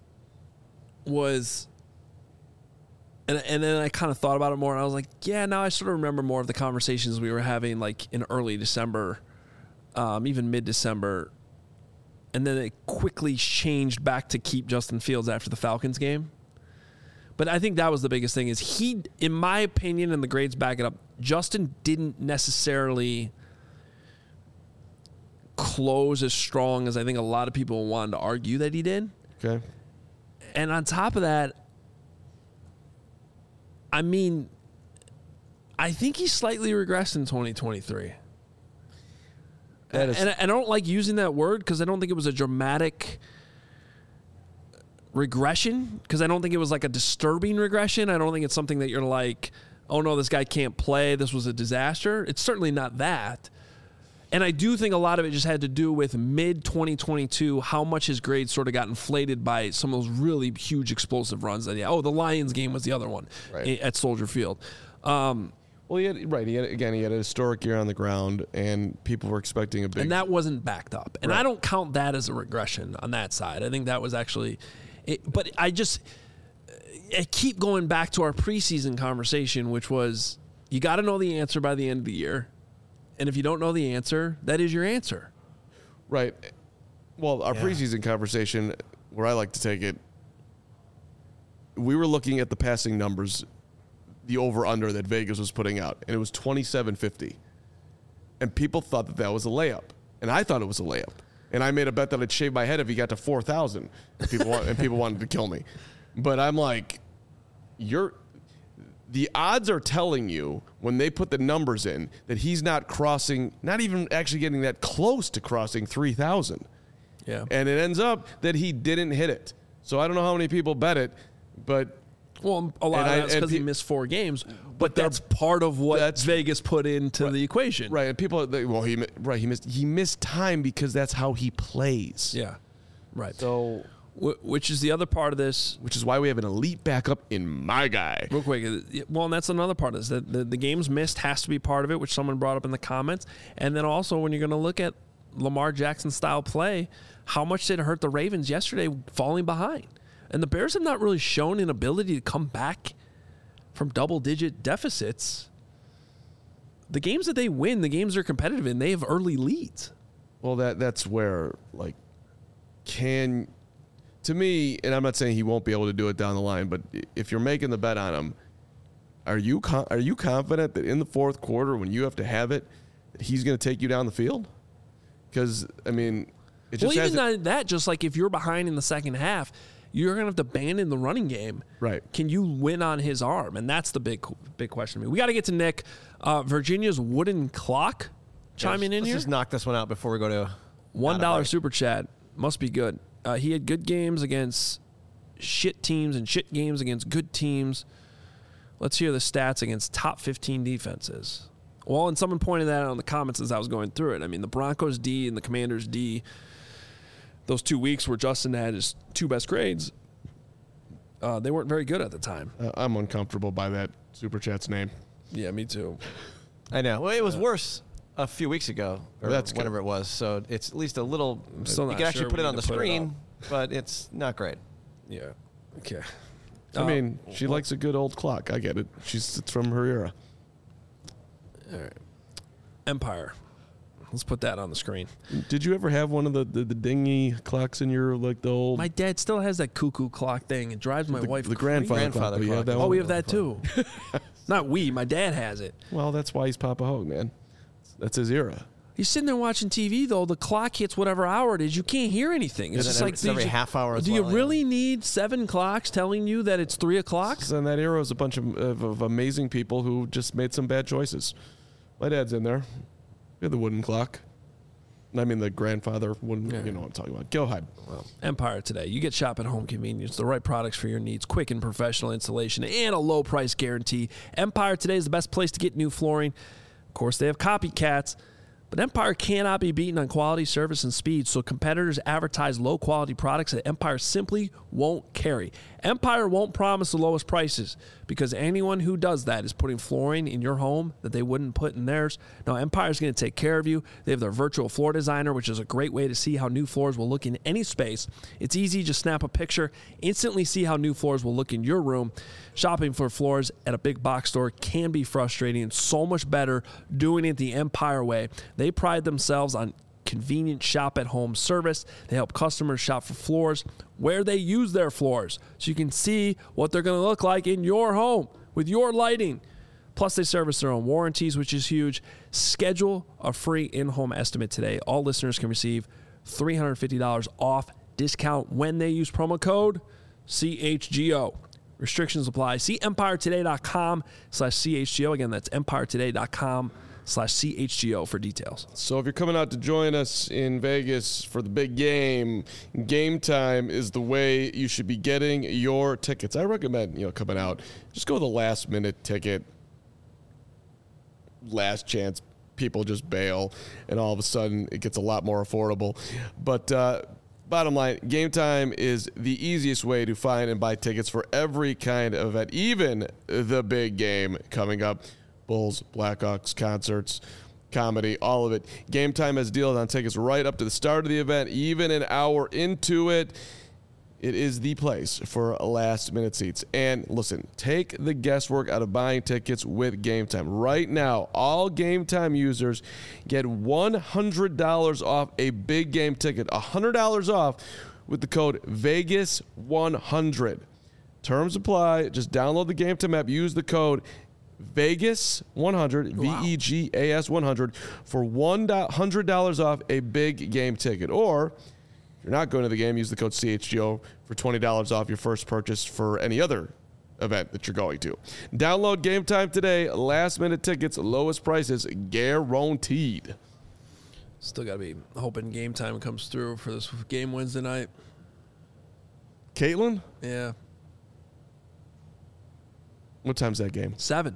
was, and, and then I kind of thought about it more, and I was like, yeah, now I sort of remember more of the conversations we were having, like, in early December, um, even mid-December, and then it quickly changed back to keep Justin Fields after the Falcons game. But I think that was the biggest thing, is he, in my opinion, and the grades back it up, Justin didn't necessarily close as strong as I think a lot of people wanted to argue that he did. Okay. And on top of that, I mean, I think he slightly regressed in twenty twenty-three. That is- and I, and I don't like using that word because I don't think it was a dramatic regression, because I don't think it was like a disturbing regression. I don't think it's something that you're like, oh no, this guy can't play, this was a disaster. It's certainly not that. And I do think a lot of it just had to do with mid twenty twenty-two, how much his grades sort of got inflated by some of those really huge explosive runs. That, yeah, oh, the Lions game was the other one Right. at Soldier Field. Um, Well, he had, right. He had, again, he had a historic year on the ground, and people were expecting a big. and that wasn't backed up. And Right. I don't count that as a regression on that side. I think that was actually, it, but I just, I keep going back to our preseason conversation, which was you got to know the answer by the end of the year. And if you don't know the answer, that is your answer. Right. Well, our Yeah. preseason conversation, where I like to take it, we were looking at the passing numbers, the over-under that Vegas was putting out, and it was twenty-seven fifty. And people thought that that was a layup. And I thought it was a layup. And I made a bet that I'd shave my head if he got to four thousand. And people, want, and people wanted to kill me. But I'm like, you're... The odds are telling you when they put the numbers in that he's not crossing, not even actually getting that close to crossing three thousand. Yeah. And it ends up that he didn't hit it. So I don't know how many people bet it, but Well, a lot And of I- that's and because he pe- missed four games, but, But they're- that's part of what that's- Vegas put into the equation. right, and people they, well he mi- right he missed he missed time because that's how he plays. Yeah. Right. So Wh- which is the other part of this. which is why we have an elite backup in my guy. Real quick, uh, well, and that's another part of this. The, the, the games missed has to be part of it, which someone brought up in the comments. And then also, when you're going to look at Lamar Jackson style play, how much did it hurt the Ravens yesterday falling behind? And the Bears have not really shown an ability to come back from double-digit deficits. The games that they win, the games they're competitive in, they have early leads. Well, that that's where like can to me, and I'm not saying he won't be able to do it down the line, but if you're making the bet on him, are you con- are you confident that in the fourth quarter when you have to have it, that he's going to take you down the field? Because I mean, it just Well, even hasn't- not that, just like if you're behind in the second half, you're going to have to abandon the running game. Right. Can you win on his arm? And that's the big big question to me. We got to get to Nick. Uh, Virginia's wooden clock chiming in Let's here. just knock this one out before we go to One out dollar of super chat. Must be good. Uh, he had good games against shit teams and shit games against good teams. Let's hear the stats against top fifteen defenses. Well, and someone pointed that out in the comments as I was going through it. I mean, the Broncos D and the Commanders D, those two weeks where Justin had his two best grades, uh, they weren't very good at the time. Uh, I'm uncomfortable by that super chat's name. Yeah, me too. I know. Well, it was worse a few weeks ago, or That's good. whenever it was. So it's at least a little. I'm still you not can actually sure put we it on need the to put it screen, but it's not great. Yeah. Okay. I Uh, mean, she likes a good old clock. I get it. She's it's from her era. All right. Empire. Let's put that on the screen. Did you ever have one of the, the, the dingy clocks in your like the old My dad still has that cuckoo clock thing. It drives my the, wife the crazy. grandfather, Grandfather clock? You have clock. that Oh, one? we have that too. Not we. My dad has it. Well, that's why he's Papa Hogue, man. That's his era. He's sitting there watching T V though. The clock hits whatever hour it is. You can't hear anything. It's And just then like it's every do you- half hour as Do you well, yeah. really need seven clocks telling you that it's three o'clock? So in that era was a bunch of, of, of amazing people who just made some bad choices. My dad's in there. We had the wooden clock. I mean, the grandfather wooden. Yeah. You know what I'm talking about. Go ahead. Well, Empire today. You get shop at home convenience, the right products for your needs, quick and professional installation, and a low price guarantee. Empire today is the best place to get new flooring. Of course, they have copycats, but Empire cannot be beaten on quality, service, and speed, so competitors advertise low quality products that Empire simply won't carry. Empire won't promise the lowest prices because anyone who does that is putting flooring in your home that they wouldn't put in theirs. Now, Empire is going to take care of you. They have their virtual floor designer, which is a great way to see how new floors will look in any space. It's easy, just snap a picture, instantly see how new floors will look in your room. Shopping for floors at a big box store can be frustrating and so much better doing it the Empire way. They pride themselves on convenient shop at home service. They help customers shop for floors where they use their floors so you can see what they're going to look like in your home with your lighting. Plus, they service their own warranties, which is huge. Schedule a free in-home estimate today. All listeners can receive three hundred fifty dollars off discount when they use promo code C H G O. Restrictions apply. See empiretoday.com slash CHGO. Again, that's empiretoday.com slash CHGO for details. So if you're coming out to join us in Vegas for the big game, Game Time is the way you should be getting your tickets. I recommend, you know, coming out, just go with a last minute ticket, last chance people just bail, and all of a sudden it gets a lot more affordable. But uh, bottom line, Game Time is the easiest way to find and buy tickets for every kind of event, even the big game coming up. Bulls, Blackhawks, concerts, comedy, all of it. Game Time has deals on tickets right up to the start of the event, even an hour into it. It is the place for last-minute seats. And listen, take the guesswork out of buying tickets with Game Time. Right now, all Game Time users get one hundred dollars off a big game ticket. one hundred dollars off with the code Vegas one hundred. Terms apply. Just download the Game Time app. Use the code Vegas one hundred, Wow. V E G A S one hundred, for one hundred dollars off a big game ticket. Or if you're not going to the game, use the code C H G O for twenty dollars off your first purchase for any other event that you're going to. Download Game Time today. Last minute tickets, lowest prices guaranteed. Still got to be hoping Game Time comes through for this game Wednesday night. Caitlin, Yeah. what time's that game? Seven.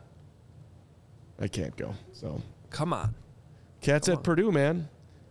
I can't go. So, Come on. Cats Come at on. Purdue, man.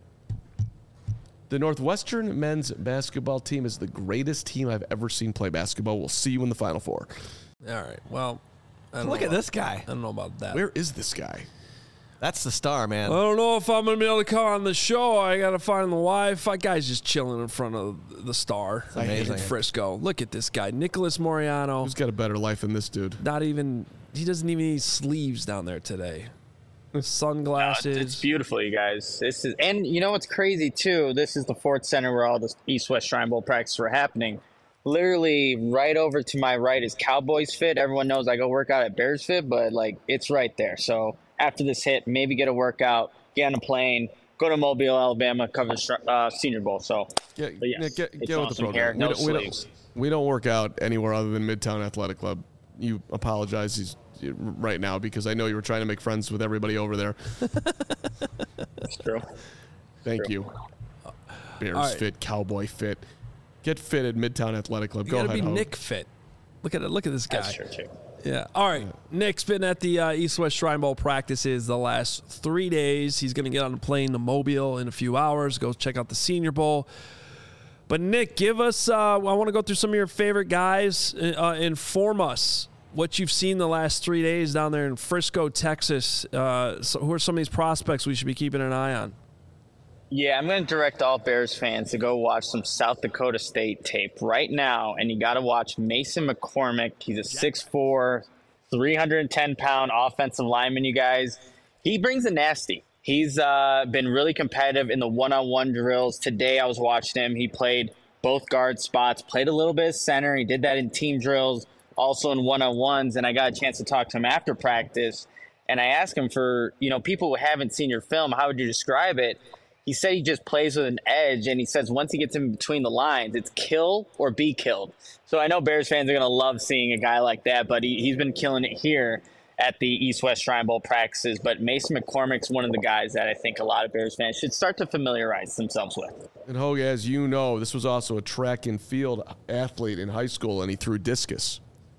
The Northwestern men's basketball team is the greatest team I've ever seen play basketball. We'll see you in the Final Four. All right. Well, I don't Look know at about- this guy. I don't know about that. Where is this guy? That's the star, man. I don't know if I'm going to be able to come on the show. I got to find the Wi-Fi. Guy's just chilling in front of the Star amazing. in Frisco. Look at this guy. Nicholas Moriano. Who's got a better life than this dude? Not even, he doesn't even need sleeves down there today. Sunglasses. It's beautiful, you guys. This is, and you know what's crazy too? This is the Ford Center where all the East-West Shrine Bowl practices were happening. Literally, right over to my right is Cowboys Fit. Everyone knows I go work out at Bears Fit, but like it's right there. So after this hit, maybe get a workout, get on a plane, go to Mobile, Alabama, cover the uh, Senior Bowl. So, Get, but yes, Nick, get, it's get with the awesome program. hair, no we, don't, we, sleeves. don't, we don't work out anywhere other than Midtown Athletic Club. You apologize he's, right now because I know you were trying to make friends with everybody over there. It's true. Thank True. you. Bears right. Fit, Cowboy Fit. Get fit at Midtown Athletic Club. You Go got to ahead, be Hope. Nick fit. Look at it. Look at this guy. That's true too. Yeah. All right. Nick's been at the uh, East-West Shrine Bowl practices the last three days. He's going to get on a plane to Mobile in a few hours, go check out the Senior Bowl. But, Nick, give us uh, – I want to go through some of your favorite guys. Uh, inform us what you've seen the last three days down there in Frisco, Texas. Uh, so who are some of these prospects we should be keeping an eye on? Yeah, I'm going to direct all Bears fans to go watch some South Dakota State tape right now, and you got to watch Mason McCormick. He's a six foot four, three hundred ten pound offensive lineman, you guys. He brings a nasty. He's uh, been really competitive in the one-on-one drills. Today I was watching him. He played both guard spots, played a little bit of center. He did that in team drills, also in one-on-ones, and I got a chance to talk to him after practice, and I asked him for, you know, people who haven't seen your film, how would you describe it? He said he just plays with an edge, and he says once he gets in between the lines, it's kill or be killed. So I know Bears fans are going to love seeing a guy like that, but he, he's been killing it here at the East-West Shrine Bowl practices. But Mason McCormick's one of the guys that I think a lot of Bears fans should start to familiarize themselves with. And Hogue, as you know, this was also a track and field athlete in high school, and he threw discus.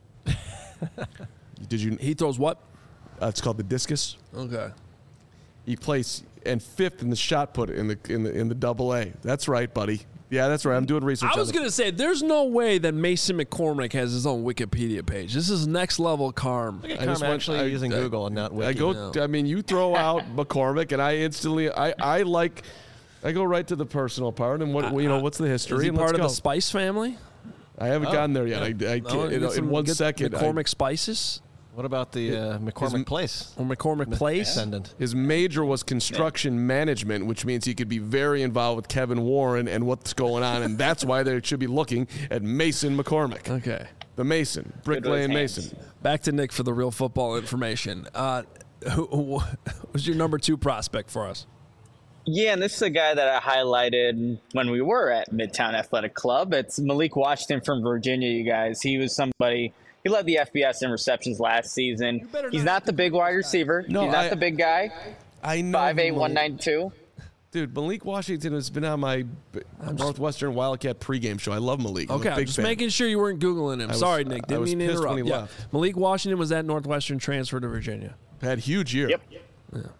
Did you? He throws what? Uh, it's called the discus. Okay. He placed and fifth in the shot put in the in the in the double A. That's right, buddy. Yeah, that's right. I'm doing research. I was on going to say, there's no way that Mason McCormick has his own Wikipedia page. This is next level Carm. Look at I Carm just went- actually I- using I- Google and not Wiki. I go. No. I mean, you throw out McCormick, and I instantly. I I like. I go right to the personal part and what you know. What's the history? Is he and part let's of go. the Spice family? I haven't Oh, gotten there yet. I, I Oh, can't, in, get some- in one get second. I- McCormick Spices What about the uh, McCormick Place? or McCormick Place? Descendant. His major was construction management, which means he could be very involved with Kevin Warren and what's going on, and that's why they should be looking at Mason McCormick, Okay. the Mason, Good with Bricklaying hands. Mason. Back to Nick for the real football information. Uh, who, who was your number two prospect for us? Yeah, and this is a guy that I highlighted when we were at Midtown Athletic Club. It's Malik Washington from Virginia, you guys. He was somebody – he led the F B S in receptions last season. He's not the big wide receiver. No, He's not I- the big guy, I know. five eight, Malik- one ninety-two. Dude, Malik Washington has been on my b- Northwestern Wildcat pregame show. I love Malik. I'm Okay, a I'm big just fan. making sure you weren't Googling him. was- Sorry, Nick. I Didn't was mean to pissed when interrupt. he Yeah. left. Malik Washington was at Northwestern, transfer to Virginia. Had huge year. Yep.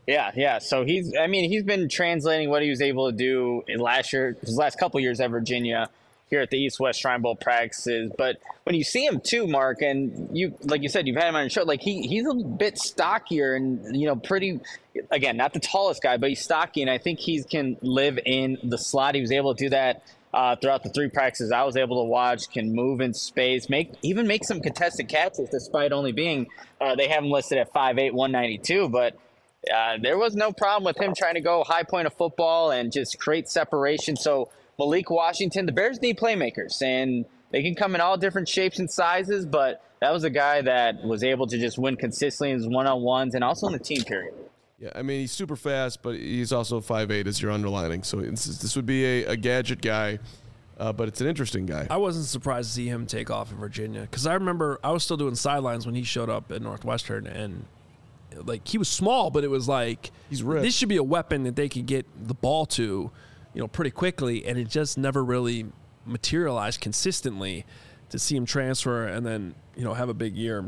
Yeah, yeah. So he's, I mean, he's been translating what he was able to do in last year, his last couple years at Virginia, here at the East West Shrine Bowl practices. But when you see him too, Mark, and you, like you said, you've had him on your show, like he, he's a bit stockier and, you know, pretty, again, not the tallest guy, but he's stocky. And I think he can live in the slot. He was able to do that uh, throughout the three practices I was able to watch, can move in space, make, even make some contested catches despite only being, uh, they have him listed at five eight, one ninety-two, but Uh, there was no problem with him trying to go high point of football and just create separation. So Malik Washington, the Bears need playmakers, and they can come in all different shapes and sizes, but that was a guy that was able to just win consistently in his one-on-ones and also in the team period. Yeah, I mean, he's super fast, but he's also five eight as you're underlining. So it's, this would be a, a gadget guy, uh, but it's an interesting guy. I wasn't surprised to see him take off in Virginia because I remember I was still doing sidelines when he showed up at Northwestern, and like he was small, but it was like he's ripped. This should be a weapon that they could get the ball to, you know, pretty quickly, and it just never really materialized consistently to see him transfer and then, you know, have a big year.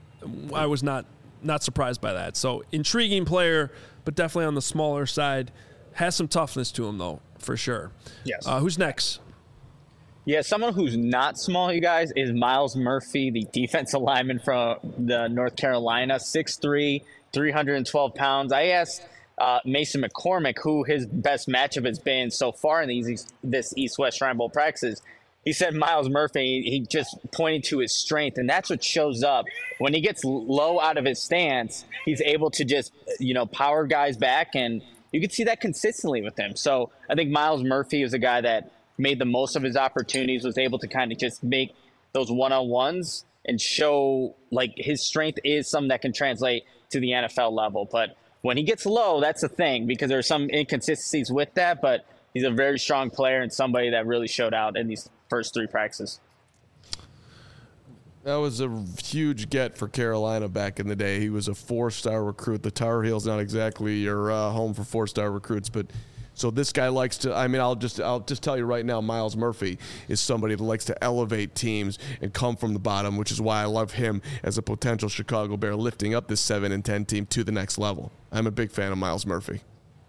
I was not not surprised by that. So intriguing player, but definitely on the smaller side. Has some toughness to him though, for sure. Yes. Uh, who's next? Yeah, someone who's not small, you guys, is Myles Murphy, the defensive lineman from the North Carolina, six three, three hundred twelve pounds. I asked uh, Mason McCormick who his best matchup has been so far in these this East-West Shrine Bowl practices. He said Myles Murphy, he just pointed to his strength, and that's what shows up. When he gets low out of his stance, he's able to just, you know, power guys back, and you can see that consistently with him. So I think Myles Murphy is a guy that made the most of his opportunities, was able to kind of just make those one-on-ones and show like his strength is something that can translate to the N F L level. But when he gets low, that's the thing, because there are some inconsistencies with that, but he's a very strong player and somebody that really showed out in these first three practices. That was a huge get for Carolina back in the day. He was a four-star recruit. The Tar Heels not exactly your uh, home for four-star recruits, but so this guy likes to, I mean, I'll just I'll just tell you right now, Myles Murphy is somebody that likes to elevate teams and come from the bottom, which is why I love him as a potential Chicago Bear lifting up this seven and ten team to the next level. I'm a big fan of Myles Murphy.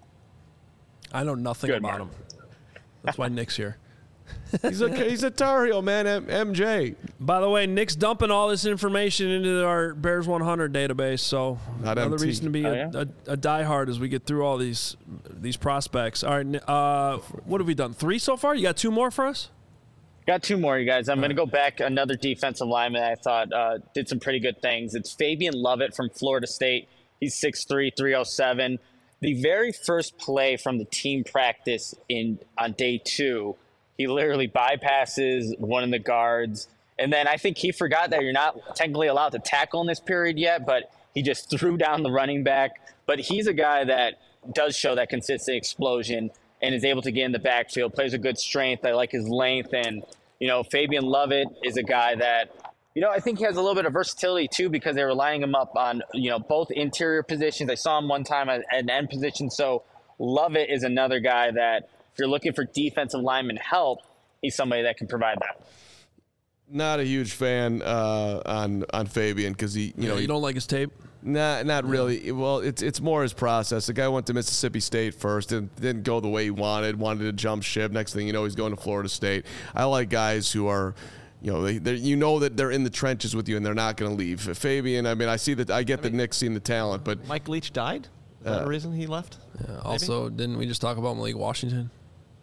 I know nothing Good, about Mark. him. That's why Nick's here. He's a he's a Tar Heel, man. M J. By the way, Nick's dumping all this information into our Bears one hundred database, so Not another M T. reason to be Oh, a, yeah? a, a diehard as we get through all these these prospects. All right, Ni- uh, what have we done? Three so far? You got two more for us? Got two more, you guys. I'm going to go back another defensive lineman I thought uh, did some pretty good things. It's Fabian Lovett from Florida State. He's six three, three oh seven. The very first play from the team practice in on day two, he literally bypasses one of the guards. And then I think he forgot that you're not technically allowed to tackle in this period yet, but he just threw down the running back. But he's a guy that does show that consistent explosion and is able to get in the backfield, plays a good strength. I like his length. And, you know, Fabian Lovett is a guy that, you know, I think he has a little bit of versatility too, because they were lining him up on, you know, both interior positions. I saw him one time at an end position. So Lovett is another guy that, if you're looking for defensive lineman help, he's somebody that can provide that. Not a huge fan uh, on on Fabian because he, you You know, know, he, you don't like his tape? Not, not really. Well, it's it's more his process. The guy went to Mississippi State first and didn't go the way he wanted. Wanted to jump ship. Next thing you know, he's going to Florida State. I like guys who are, you know, they they you know that they're in the trenches with you and they're not going to leave. Fabian, I mean, I see that. I get that Nick's seen the talent, but Mike Leach died? Is that Uh, the reason he left? Yeah, also, didn't we just talk about Malik Washington?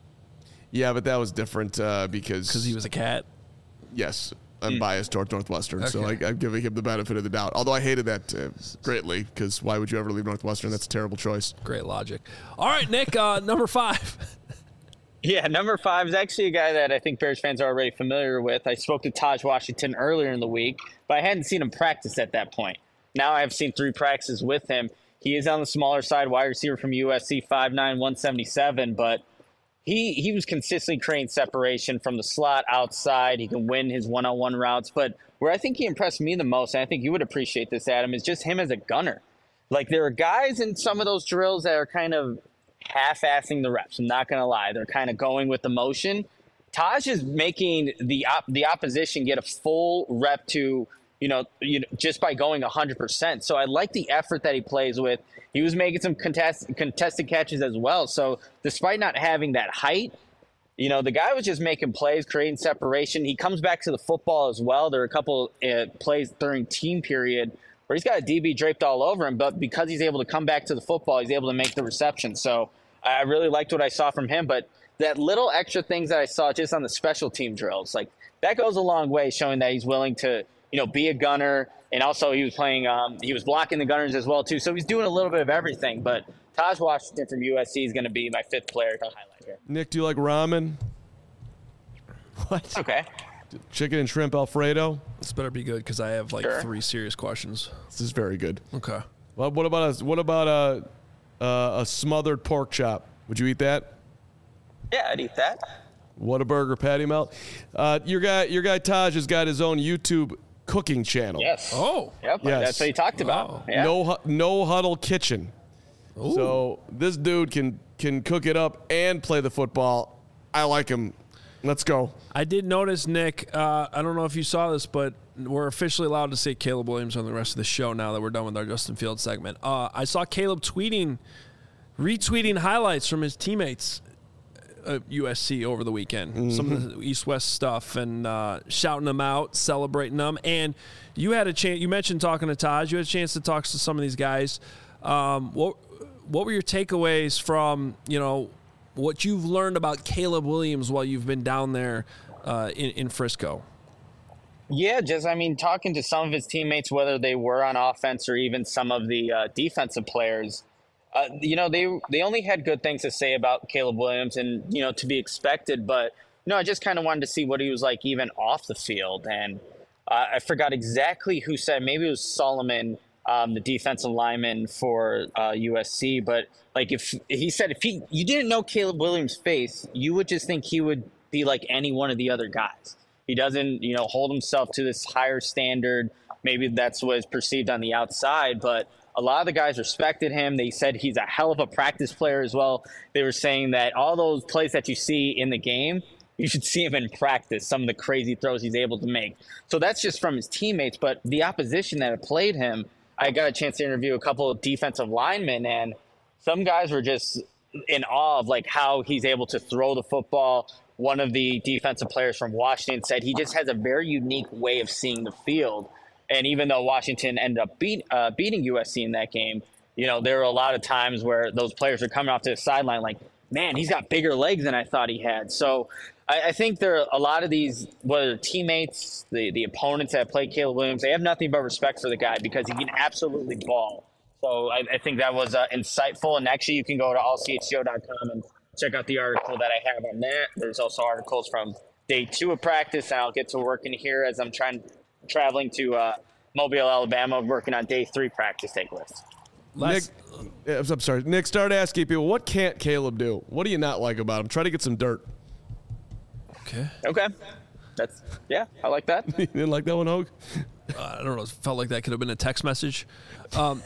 yeah, but that was different uh, because Because he was a cat. yes. I'm biased toward Northwestern, so I, Okay. I'm giving him the benefit of the doubt. Although I hated that uh, greatly, because why would you ever leave Northwestern? That's a terrible choice. Great logic. All right, Nick, uh, number five. Yeah, number five is actually a guy that I think Bears fans are already familiar with. I spoke to Taj Washington earlier in the week, but I hadn't seen him practice at that point. Now I've seen three practices with him. He is on the smaller side, wide receiver from U S C, five nine, one seventy-seven, but he he was consistently creating separation from the slot outside. He can win his one-on-one routes, but where I think he impressed me the most, and I think you would appreciate this, Adam, is just him as a gunner. Like, there are guys in some of those drills that are kind of half-assing the reps. I'm not going to lie. They're kind of going with the motion. Taj is making the op- the opposition get a full rep to you know, you know, just by going one hundred percent. So I like the effort that he plays with. He was making some contest, contested catches as well. So despite not having that height, you know, the guy was just making plays, creating separation. He comes back to the football as well. There are a couple uh, plays during team period where he's got a D B draped all over him, but because he's able to come back to the football, he's able to make the reception. So I really liked what I saw from him. But that little extra things that I saw just on the special team drills, like that goes a long way, showing that he's willing to, you know, be a gunner. And also he was playing, um, he was blocking the gunners as well, too. So he's doing a little bit of everything. But Taj Washington from U S C is going to be my fifth player to highlight here. Nick, do you like ramen? What? Okay. Chicken and shrimp Alfredo? This better be good because I have like Sure. three serious questions. This is very good. Okay. Well, what about a, what about a, uh, a smothered pork chop? Would you eat that? Yeah, I'd eat that. What a burger, patty melt. Uh, your guy, your guy Taj has got his own YouTube cooking channel. Yes. Oh. Yep. Yes. That's what he talked about. Wow. Yeah. No, hu- no huddle kitchen. Ooh. So this dude can can cook it up and play the football. I like him. Let's go. I did notice, Nick, uh, I don't know if you saw this, but we're officially allowed to say Caleb Williams on the rest of the show now that we're done with our Justin Fields segment. Uh, I saw Caleb tweeting, retweeting highlights from his teammates at U S C over the weekend. Mm-hmm. Some of the East-West stuff and uh, shouting them out, celebrating them. And you had a chance, you mentioned talking to Taj, you had a chance to talk to some of these guys. Um, what, what were your takeaways from, you know, what you've learned about Caleb Williams while you've been down there uh, in, in Frisco? Yeah, just, I mean, talking to some of his teammates, whether they were on offense or even some of the uh, defensive players, uh, you know, they they only had good things to say about Caleb Williams and, you know, to be expected. But, you know, I just kind of wanted to see what he was like even off the field. And uh, I forgot exactly who said, maybe it was Solomon, um, the defensive lineman for uh, U S C. But, like, if he said if he you didn't know Caleb Williams' face, you would just think he would be like any one of the other guys. He doesn't, you know, hold himself to this higher standard. Maybe that's what is perceived on the outside, but a lot of the guys respected him. They said he's a hell of a practice player as well. They were saying that all those plays that you see in the game, you should see him in practice, some of the crazy throws he's able to make. So that's just from his teammates, but the opposition that had played him, I got a chance to interview a couple of defensive linemen, and some guys were just in awe of like how he's able to throw the football. One of the defensive players from Washington said he just has a very unique way of seeing the field. And even though Washington ended up beat, uh, beating U S C in that game, you know, there were a lot of times where those players are coming off to the sideline like, man, he's got bigger legs than I thought he had. So I, I think there are a lot of these, whether teammates, the, the opponents that play Caleb Williams, they have nothing but respect for the guy because he can absolutely ball. So I, I think that was uh, insightful. And actually, you can go to all c h g o dot com and check out the article that I have on that. There's also articles from day two of practice, and I'll get to working here as I'm trying traveling to uh, Mobile, Alabama, working on day three practice take lists. Nick, I'm sorry. Nick, start asking people, what can't Caleb do? What do you not like about him? Try to get some dirt. Okay. Okay. That's, yeah, I like that. You didn't like that one, Hogue? Uh, I don't know. It felt like that could have been a text message. Um,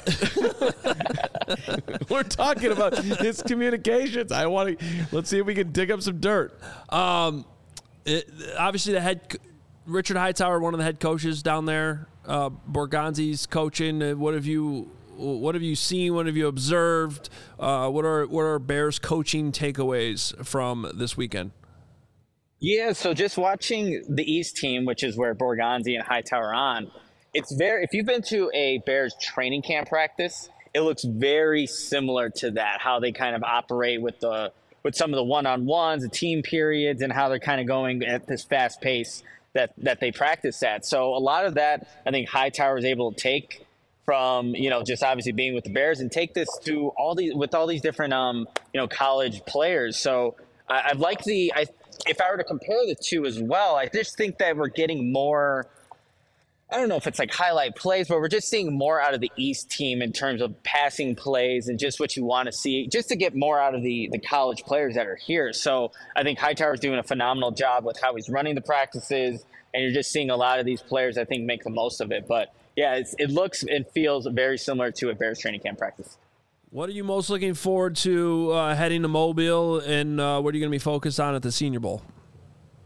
We're talking about his communications. I want to. Let's see if we can dig up some dirt. Um, it, obviously, the head Richard Hightower, one of the head coaches down there, uh, Borgonzi's coaching. Uh, what have you? What have you seen? What have you observed? Uh, what are what are Bears coaching takeaways from this weekend? Yeah, so just watching the East team, which is where Borgonzi and Hightower are on, it's very, if you've been to a Bears training camp practice, it looks very similar to that, how they kind of operate with the with some of the one-on-ones, the team periods, and how they're kind of going at this fast pace that, that they practice at. So a lot of that, I think Hightower is able to take from, you know, just obviously being with the Bears and take this to all these, with all these different, um, you know, college players. So I, I've liked the, I, if I were to compare the two as well, I just think that we're getting more, I don't know if it's like highlight plays, but we're just seeing more out of the East team in terms of passing plays and just what you want to see, just to get more out of the, the college players that are here. So I think Hightower's doing a phenomenal job with how he's running the practices, and you're just seeing a lot of these players, I think, make the most of it. But yeah, it's, it looks and feels very similar to a Bears training camp practice. What are you most looking forward to uh, heading to Mobile, and uh, what are you going to be focused on at the Senior Bowl?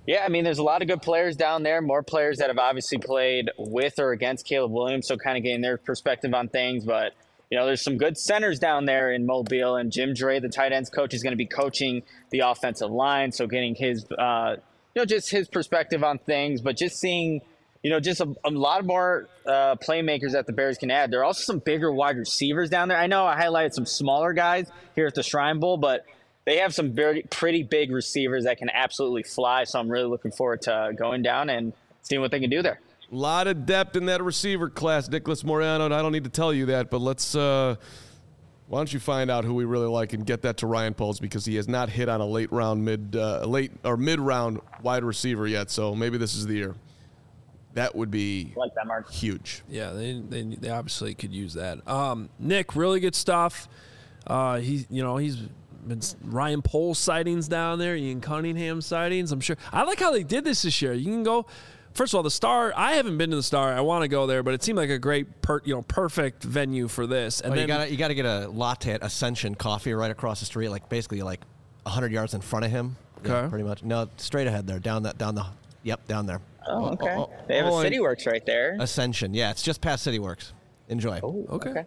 Yeah, I mean, there's a lot of good players down there, more players that have obviously played with or against Caleb Williams, so kind of getting their perspective on things. But, you know, there's some good centers down there in Mobile, and Jim Dre, the tight ends coach, is going to be coaching the offensive line, so getting his, uh, you know, just his perspective on things, but just seeing, you know, just a, a lot more uh, playmakers that the Bears can add. There are also some bigger wide receivers down there. I know I highlighted some smaller guys here at the Shrine Bowl, but they have some very pretty big receivers that can absolutely fly. So I'm really looking forward to going down and seeing what they can do there. A lot of depth in that receiver class, Nicholas Moreano. And I don't need to tell you that, but let's. Uh, why don't you find out who we really like and get that to Ryan Poles, because he has not hit on a late round, mid, uh, late or mid round wide receiver yet. So maybe this is the year. That would be I like that, Mark. Huge. Yeah, they, they they obviously could use that. Um, Nick, really good stuff. Uh, he, you know, he's. Been Ryan Poles sightings down there, Ian Cunningham sightings. I'm sure. I like how they did this this year. You can go. First of all, the Star. I haven't been to the Star. I want to go there, but it seemed like a great, per, you know, perfect venue for this. And oh, then you got you got to get a latte at Ascension Coffee right across the street, like basically like hundred yards in front of him. Okay. Yeah, pretty much. No, straight ahead there, down that, down the. Yep, down there. Oh, okay. Oh, oh, they have oh, a CityWorks right there. Ascension. Yeah, it's just past CityWorks. Enjoy. Oh, okay. okay.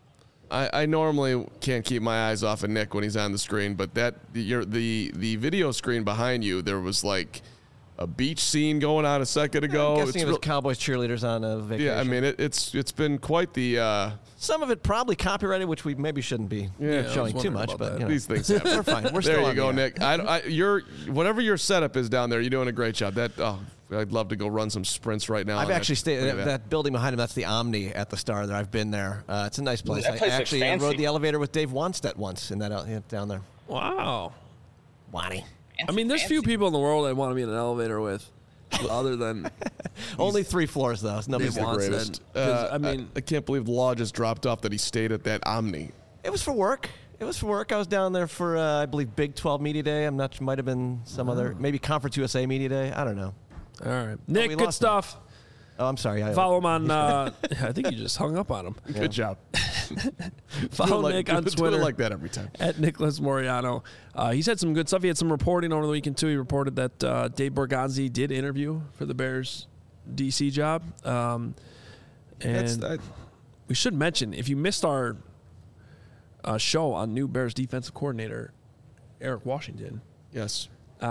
I, I normally can't keep my eyes off of Nick when he's on the screen, but that your the the video screen behind you, there was like a beach scene going on a second ago. I'm guessing It's it was real- Cowboys cheerleaders on a vacation. yeah, I mean it, it's it's been quite the uh, some of it probably copyrighted, which we maybe shouldn't be Yeah, I was showing too wondering much. about But that. you know, these things happen. we're fine. We're there still you on go, the air. Nick. I, I, you're whatever your setup is down there. You're doing a great job. That oh, I'd love to go run some sprints right now. I've on actually that. stayed Look at that. that building behind him. That's the Omni at the Star. There, I've been there. Uh, it's a nice place. that place I looks actually I fancy. rode the elevator with Dave Wanstead once in that out yeah, down there. Wow. Wani. I mean, there's few people in the world I want to be in an elevator with, other than Only three floors though. So nobody's Dave the Wanstead. greatest. Because, Uh, I mean, I, I can't believe the law just dropped off that he stayed at that Omni. It was for work. It was for work. I was down there for uh, I believe Big twelve Media Day. I'm not. Might have been some other maybe Conference U S A Media Day. I don't know. all right, Nick, we good lost him. stuff. Oh, I'm sorry. I, Follow him on. Uh, I think you just hung up on him. Good job. Follow Do it like- Nick do on it Twitter like that every time. at Nicholas Moriano. Uh, he's had some good stuff. He had some reporting over the weekend too. He reported that uh, Dave Borgonzi did interview for the Bears D C job. Um, and That's that. we should mention, if you missed our uh, show on new Bears defensive coordinator Eric Washington, Yes.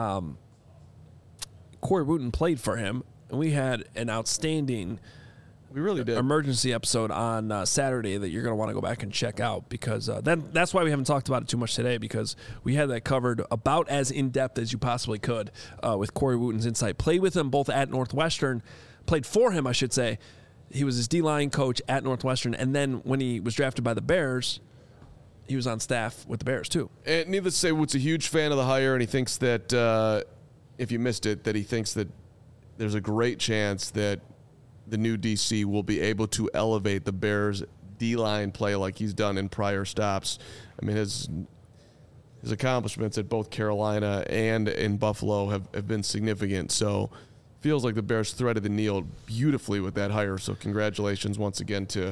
Corey Wooten played for him, and we had an outstanding We really did. emergency episode on uh, Saturday that you're going to want to go back and check out, because uh, then that's why we haven't talked about it too much today, because we had that covered about as in depth as you possibly could uh, with Corey Wooten's insight. Played with him both at Northwestern, played for him, I should say. He was his D-line coach at Northwestern, and then when he was drafted by the Bears, he was on staff with the Bears too. And needless to say, Wood's a huge fan of the hire, and he thinks that uh, if you missed it, that he thinks that there's a great chance that the new D C will be able to elevate the Bears' D-line play like he's done in prior stops. I mean, his his accomplishments at both Carolina and in Buffalo have, have been significant. So feels like the Bears threaded the needle beautifully with that hire. So congratulations once again to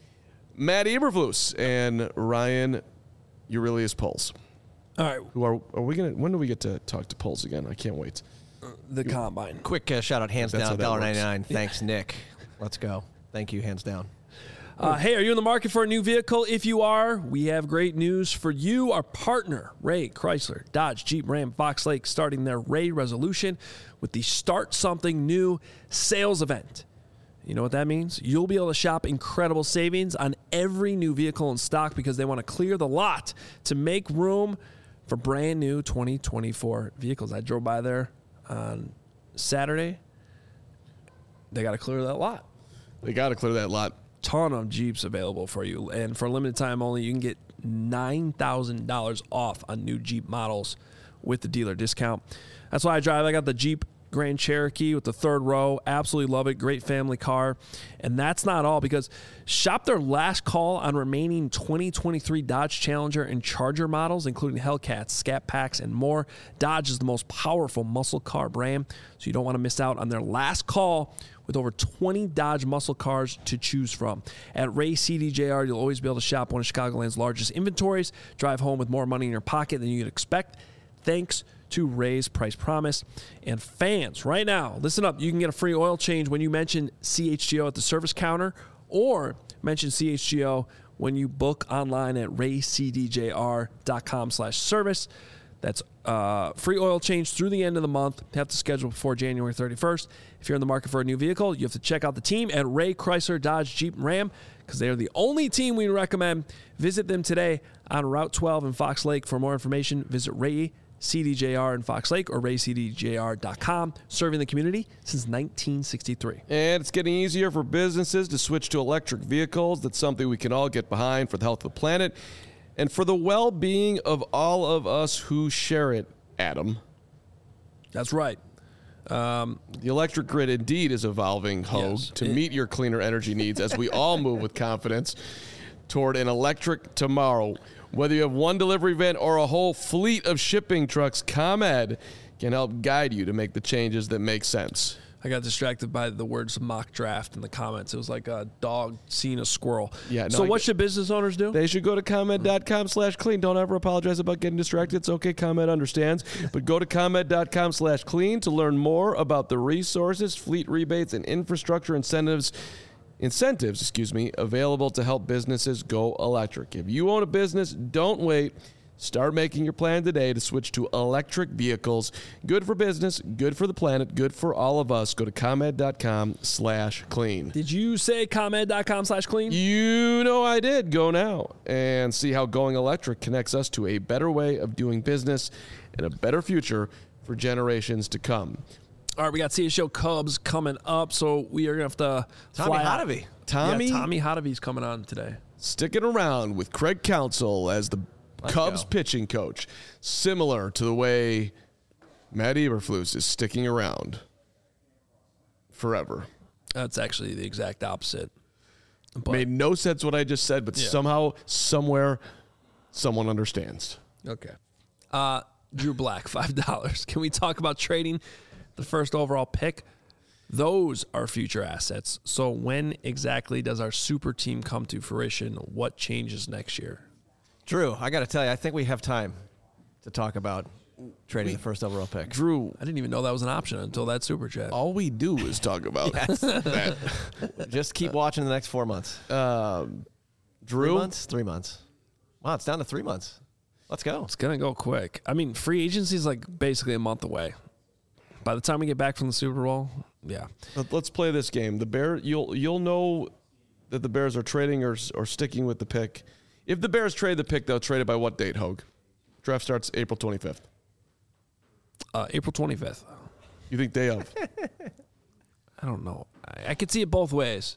Matt Eberflus and Ryan Aurelius Poles. All right, Who are are we gonna? When do we get to talk to Poles again? I can't wait. the combine. quick uh, shout out, hands That's how down, that one dollar works. ninety-nine. Thanks, Nick. Let's go. Thank you, hands down. Uh, hey, are you in the market for a new vehicle? If you are, we have great news for you. Our partner, Ray Chrysler, Dodge, Jeep, Ram, Fox Lake, starting their Ray Resolution with the Start Something New sales event. You know what that means? You'll be able to shop incredible savings on every new vehicle in stock because they want to clear the lot to make room for brand new twenty twenty-four vehicles. I drove by there on Saturday. They got to clear that lot. They got to clear that lot. Ton of Jeeps available for you, and for a limited time only, you can get nine thousand dollars off on new Jeep models with the dealer discount. That's why I drive. I got the Jeep Grand Cherokee with the third row. Absolutely love it. Great family car. And that's not all, because shop their last call on remaining twenty twenty-three Dodge Challenger and Charger models, including Hellcats, Scat Packs, and more. Dodge is the most powerful muscle car brand, so you don't want to miss out on their last call with over twenty Dodge muscle cars to choose from. At Ray C D J R, you'll always be able to shop one of Chicagoland's largest inventories, drive home with more money in your pocket than you'd expect, thanks to Ray's Price Promise. And fans, right now, listen up. You can get a free oil change when you mention C H G O at the service counter, or mention C H G O when you book online at raycdjr.com slash service. That's uh, free oil change through the end of the month. You have to schedule before January thirty-first. If you're in the market for a new vehicle, you have to check out the team at Ray Chrysler Dodge Jeep Ram, because they are the only team we recommend. Visit them today on Route twelve in Fox Lake. For more information, visit Ray C D J R in Fox Lake or ray c d j r dot com, serving the community since nineteen sixty-three. And it's getting easier for businesses to switch to electric vehicles. That's something we can all get behind for the health of the planet and for the well-being of all of us who share it, Adam. That's right. Um, the electric grid indeed is evolving, Hogue, yes. to it, meet your cleaner energy needs as we all move with confidence toward an electric tomorrow. Whether you have one delivery van or a whole fleet of shipping trucks, ComEd can help guide you to make the changes that make sense. I got distracted by the words mock draft in the comments. It was like a dog seeing a squirrel. Yeah. No, so I what get, should business owners do? They should go to ComEd.com slash clean. Don't ever apologize about getting distracted. It's okay. ComEd understands. But go to ComEd.com slash clean to learn more about the resources, fleet rebates, and infrastructure incentives Incentives, excuse me, available to help businesses go electric. If you own a business, don't wait. Start making your plan today to switch to electric vehicles. Good for business, good for the planet, good for all of us. Go to ComEd.com slash clean. Did you say ComEd.com slash clean? You know I did. Go now and see how going electric connects us to a better way of doing business and a better future for generations to come. All right, we got C H G O Cubs coming up, so we are going to have to Tommy fly Hotovy. Tommy? Yeah, Tommy Hotovy's coming on today. Sticking around with Craig Counsell as the Let's Cubs go. pitching coach, similar to the way Matt Eberflus is sticking around forever. That's actually the exact opposite. But made no sense what I just said, but yeah. somehow, somewhere, someone understands. Okay. Uh, Drew Black, five dollars. Can we talk about trading the first overall pick? Those are future assets. So when exactly does our super team come to fruition? What changes next year? Drew, I got to tell you, I think we have time to talk about trading we, the first overall pick. Drew, I didn't even know that was an option until that super chat. All we do is talk about that. Just keep watching the next four months. Um, Drew? Three months? Three months. Wow, it's down to three months. Let's go. It's going to go quick. I mean, free agency is like basically a month away. By the time we get back from the Super Bowl, yeah. Let's play this game. The Bear, you'll you'll know that the Bears are trading or or sticking with the pick. If the Bears trade the pick, they'll trade it by what date, Hogue? Draft starts April twenty-fifth. Uh, April twenty-fifth. You think day of? I don't know. I, I could see it both ways.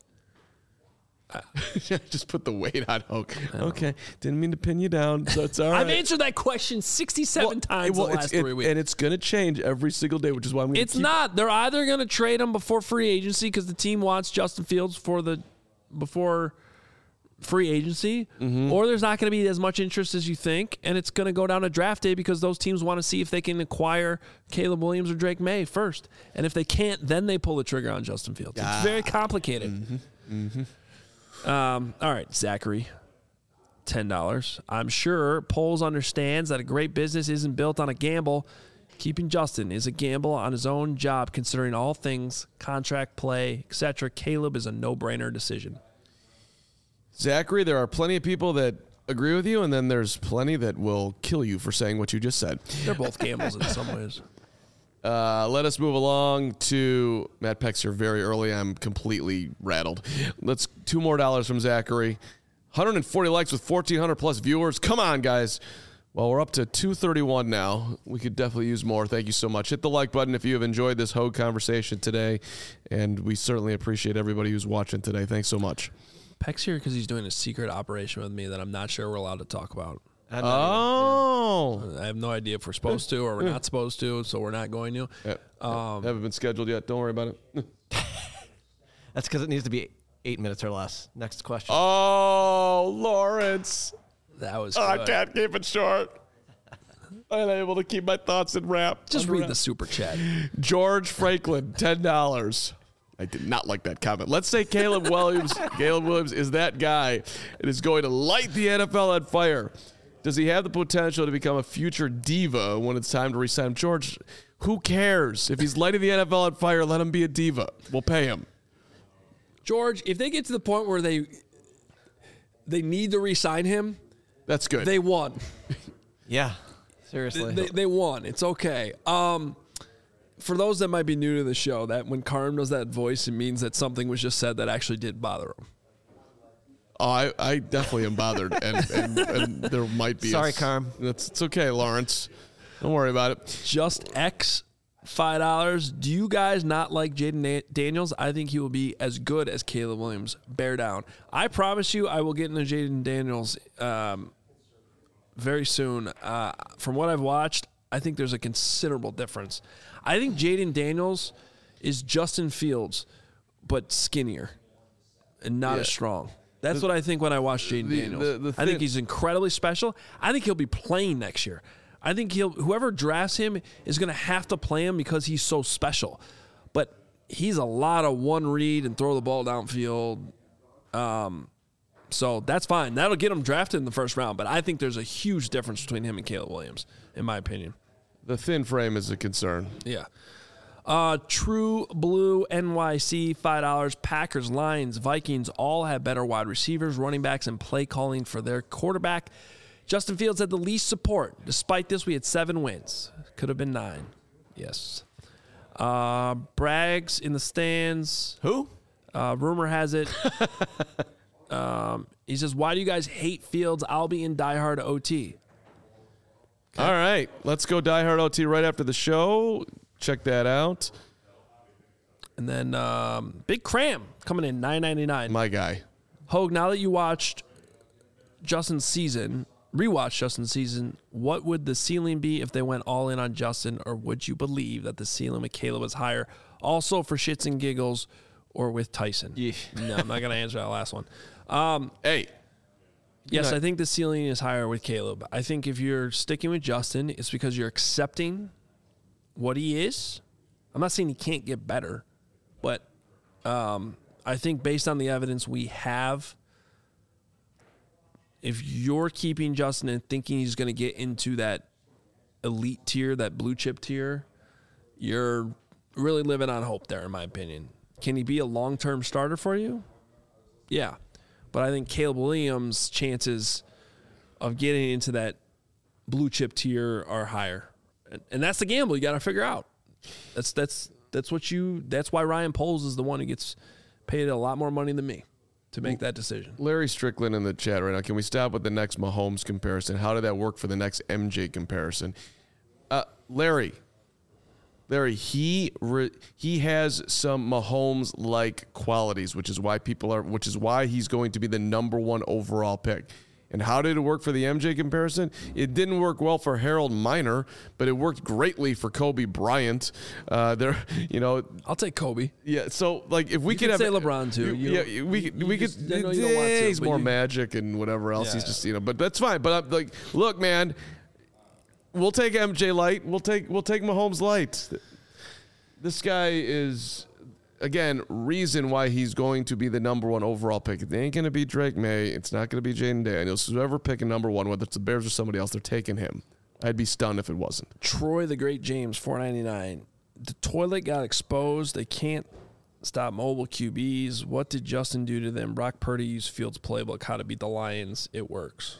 Just put the weight on Hogue. Okay. Didn't mean to pin you down, so it's all right. I've answered that question sixty-seven well, times well, the last it, three weeks. And it's going to change every single day, which is why I'm going to It's not. They're either going to trade him before free agency because the team wants Justin Fields for the before free agency, mm-hmm. or there's not going to be as much interest as you think, and it's going to go down to draft day because those teams want to see if they can acquire Caleb Williams or Drake May first. And if they can't, then they pull the trigger on Justin Fields. Ah. It's very complicated. Mm-hmm. Mm-hmm. Um, all right, Zachary, ten dollars. I'm sure Poles understands that a great business isn't built on a gamble. Keeping Justin is a gamble on his own job, considering all things, contract, play, et cetera. Caleb is a no-brainer decision. Zachary, there are plenty of people that agree with you, and then there's plenty that will kill you for saying what you just said. They're both gambles in some ways. Uh, let us move along to Matt Peck's here very early. I'm completely rattled. Let's two more dollars from Zachary. one hundred forty likes with fourteen hundred plus viewers. Come on, guys. Well, we're up to two thirty-one now. We could definitely use more. Thank you so much. Hit the like button if you have enjoyed this Hogue conversation today, and we certainly appreciate everybody who's watching today. Thanks so much. Peck's here because he's doing a secret operation with me that I'm not sure we're allowed to talk about. Oh. Either, yeah. I have no idea if we're supposed to or we're not supposed to, so we're not going to. Yeah. Um, Haven't been scheduled yet. Don't worry about it. That's because it needs to be eight minutes or less. Next question. Oh, Lawrence. That was oh, good. I can't keep it short. I'm unable to keep my thoughts in wrap. Just read the super chat. George Franklin, ten dollars. I did not like that comment. Let's say Caleb Williams Caleb Williams is that guy and is going to light the N F L on fire. Does he have the potential to become a future diva when it's time to resign him? George, who cares? If he's lighting the N F L on fire, let him be a diva. We'll pay him. George, if they get to the point where they they need to re-sign him, that's good. They won. Yeah, seriously. They, they won. It's okay. Um, for those that might be new to the show, that when Carm does that voice, it means that something was just said that actually did bother him. Oh, I, I definitely am bothered, and, and, and there might be. Sorry, a, Carm. That's it's okay, Lawrence. Don't worry about it. Just X five dollars. Do you guys not like Jaden Daniels? I think he will be as good as Caleb Williams. Bear down. I promise you, I will get into Jaden Daniels um, very soon. Uh, from what I've watched, I think there's a considerable difference. I think Jaden Daniels is Justin Fields, but skinnier and not Yeah. as strong. That's the, what I think when I watch Jaden Daniels. The, the I think he's incredibly special. I think he'll be playing next year. I think he'll whoever drafts him is going to have to play him because he's so special. But he's a lot of one read and throw the ball downfield. Um, so that's fine. That'll get him drafted in the first round. But I think there's a huge difference between him and Caleb Williams, in my opinion. The thin frame is a concern. Yeah. Uh, True Blue N Y C, five dollars. Packers, Lions, Vikings all have better wide receivers, running backs, and play calling for their quarterback. Justin Fields had the least support. Despite this, we had seven wins. Could have been nine. Yes. Uh, Braggs in the stands. Who? Uh, rumor has it. um, he says, why do you guys hate Fields? I'll be in diehard O T. Okay. All right. Let's go diehard O T right after the show. Check that out. And then um, Big Cram coming in, nine ninety-nine. My guy. Hogue, now that you watched Justin's season, rewatched Justin's season, what would the ceiling be if they went all in on Justin, or would you believe that the ceiling with Caleb is higher? Also for shits and giggles, or with Tyson? Yeah. No, I'm not going to answer that last one. Um, hey. Yes, not- I think the ceiling is higher with Caleb. I think if you're sticking with Justin, it's because you're accepting what he is. I'm not saying he can't get better, but um, I think based on the evidence we have, if you're keeping Justin and thinking he's going to get into that elite tier, that blue chip tier, you're really living on hope there, in my opinion. Can he be a long-term starter for you? Yeah. But I think Caleb Williams' chances of getting into that blue chip tier are higher. And, and that's the gamble you got to figure out. That's that's that's what you that's why Ryan Poles is the one who gets paid a lot more money than me to make that decision. Larry Strickland in the chat right now. Can we stop with the next Mahomes comparison? How did that work for the next M J comparison? Uh, Larry, Larry, he re, he has some Mahomes-like qualities, which is why people are, which is why he's going to be the number one overall pick. And how did it work for the M J comparison? It didn't work well for Harold Miner, but it worked greatly for Kobe Bryant. Uh, there, you know, I'll take Kobe. yeah. So, like, if we You could could have say LeBron, too. You yeah, don't- we you- could, you we just- could. I know you don't want to, he's but more you- magic and whatever else. He's Yeah. just, you know, but that's fine. But I'm like, look, man, we'll take M J light. We'll take we'll take Mahomes light. This guy is, again, reason why he's going to be the number one overall pick. It ain't going to be Drake May. It's not going to be Jaden Daniels. Whoever picking number one, whether it's the Bears or somebody else, they're taking him. I'd be stunned if it wasn't. Troy the Great James, four ninety-nine. The toilet got exposed. They can't stop mobile Q Bs. What did Justin do to them? Brock Purdy used Fields' playbook, how to beat the Lions. It works.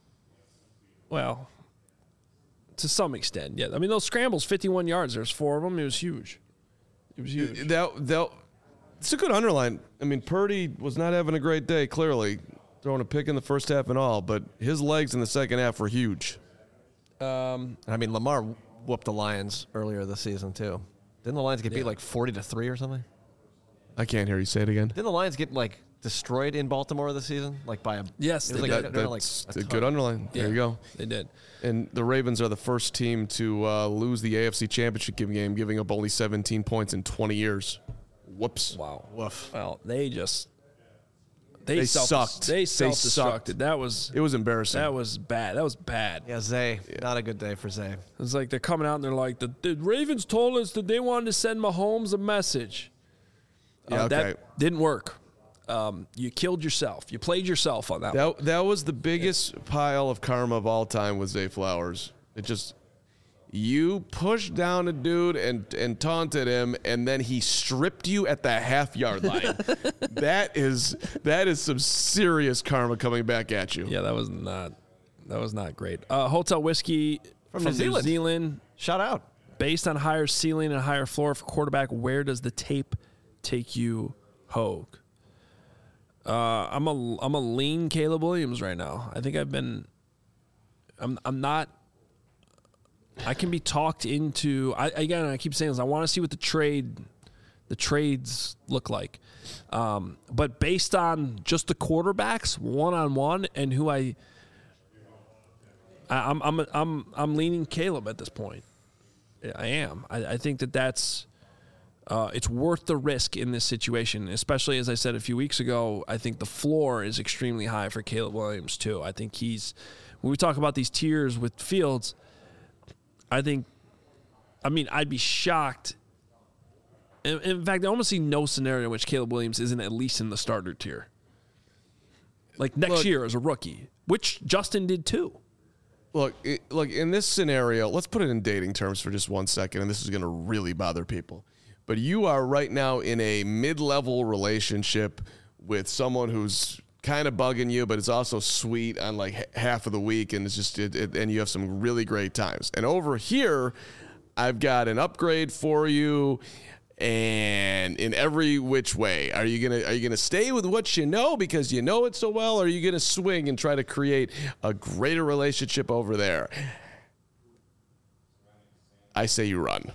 Well, to some extent, yeah. I mean, those scrambles, fifty-one yards. There's four of them. It was huge. It was huge. That, that, it's a good underline. I mean, Purdy was not having a great day, clearly, throwing a pick in the first half and all, but his legs in the second half were huge. Um, I mean, Lamar whooped the Lions earlier this season too. Didn't the Lions get beat Yeah. like forty to three or something? I can't hear you say it again. Didn't the Lions get like destroyed in Baltimore this season? Like by a Yes, it was they like, did. they're That, like that's a a ton. good underline. There yeah, you go. They did. And the Ravens are the first team to uh, lose the A F C Championship game, giving up only seventeen points in twenty years. Whoops. Wow. Woof. Well, they just they, They self, sucked. They They self-destructed. sucked. That was It was embarrassing. that was bad. That was bad. Yeah, Zay. Not a good day for Zay. It's like they're coming out and they're like, the, the Ravens told us that they wanted to send Mahomes a message. Uh, Yeah, okay. That didn't work. um, you killed yourself. You played yourself on that. That that was the biggest pile of karma of all time with Zay Flowers. It just you pushed down a dude and and taunted him, and then he stripped you at the half yard line. that is that is some serious karma coming back at you. Yeah, that was not that was not great. Uh, Hotel Whiskey From from, New New Zealand. Zealand. Shout out. Based on higher ceiling and higher floor for quarterback, where does the tape take you, Hogue? Uh, I'm a I'm a lean Caleb Williams right now. I think I've been. I'm I'm not. I can be talked into. I again, I keep saying this. I want to see what the trade, the trades look like. Um, but based on just the quarterbacks, one on one, and who I, I I'm I'm I'm I'm leaning Caleb at this point. I am. I, I think that that's. Uh, it's worth the risk in this situation, especially as I said a few weeks ago. I think the floor is extremely high for Caleb Williams too. I think he's when we talk about these tiers with Fields. I think, I mean, I'd be shocked. In, in fact, I almost see no scenario in which Caleb Williams isn't at least in the starter tier. Like next Look, year as a rookie, which Justin did too. Look, it, look in this scenario. Let's put it in dating terms for just one second, and this is going to really bother people. But you are right now in a mid-level relationship with someone who's kind of bugging you, but it's also sweet on like h- half of the week, and it's just it, it, and you have some really great times. And over here, I've got an upgrade for you, and in every which way, are you gonna are you gonna stay with what you know because you know it so well, or are you gonna swing and try to create a greater relationship over there? I say you run.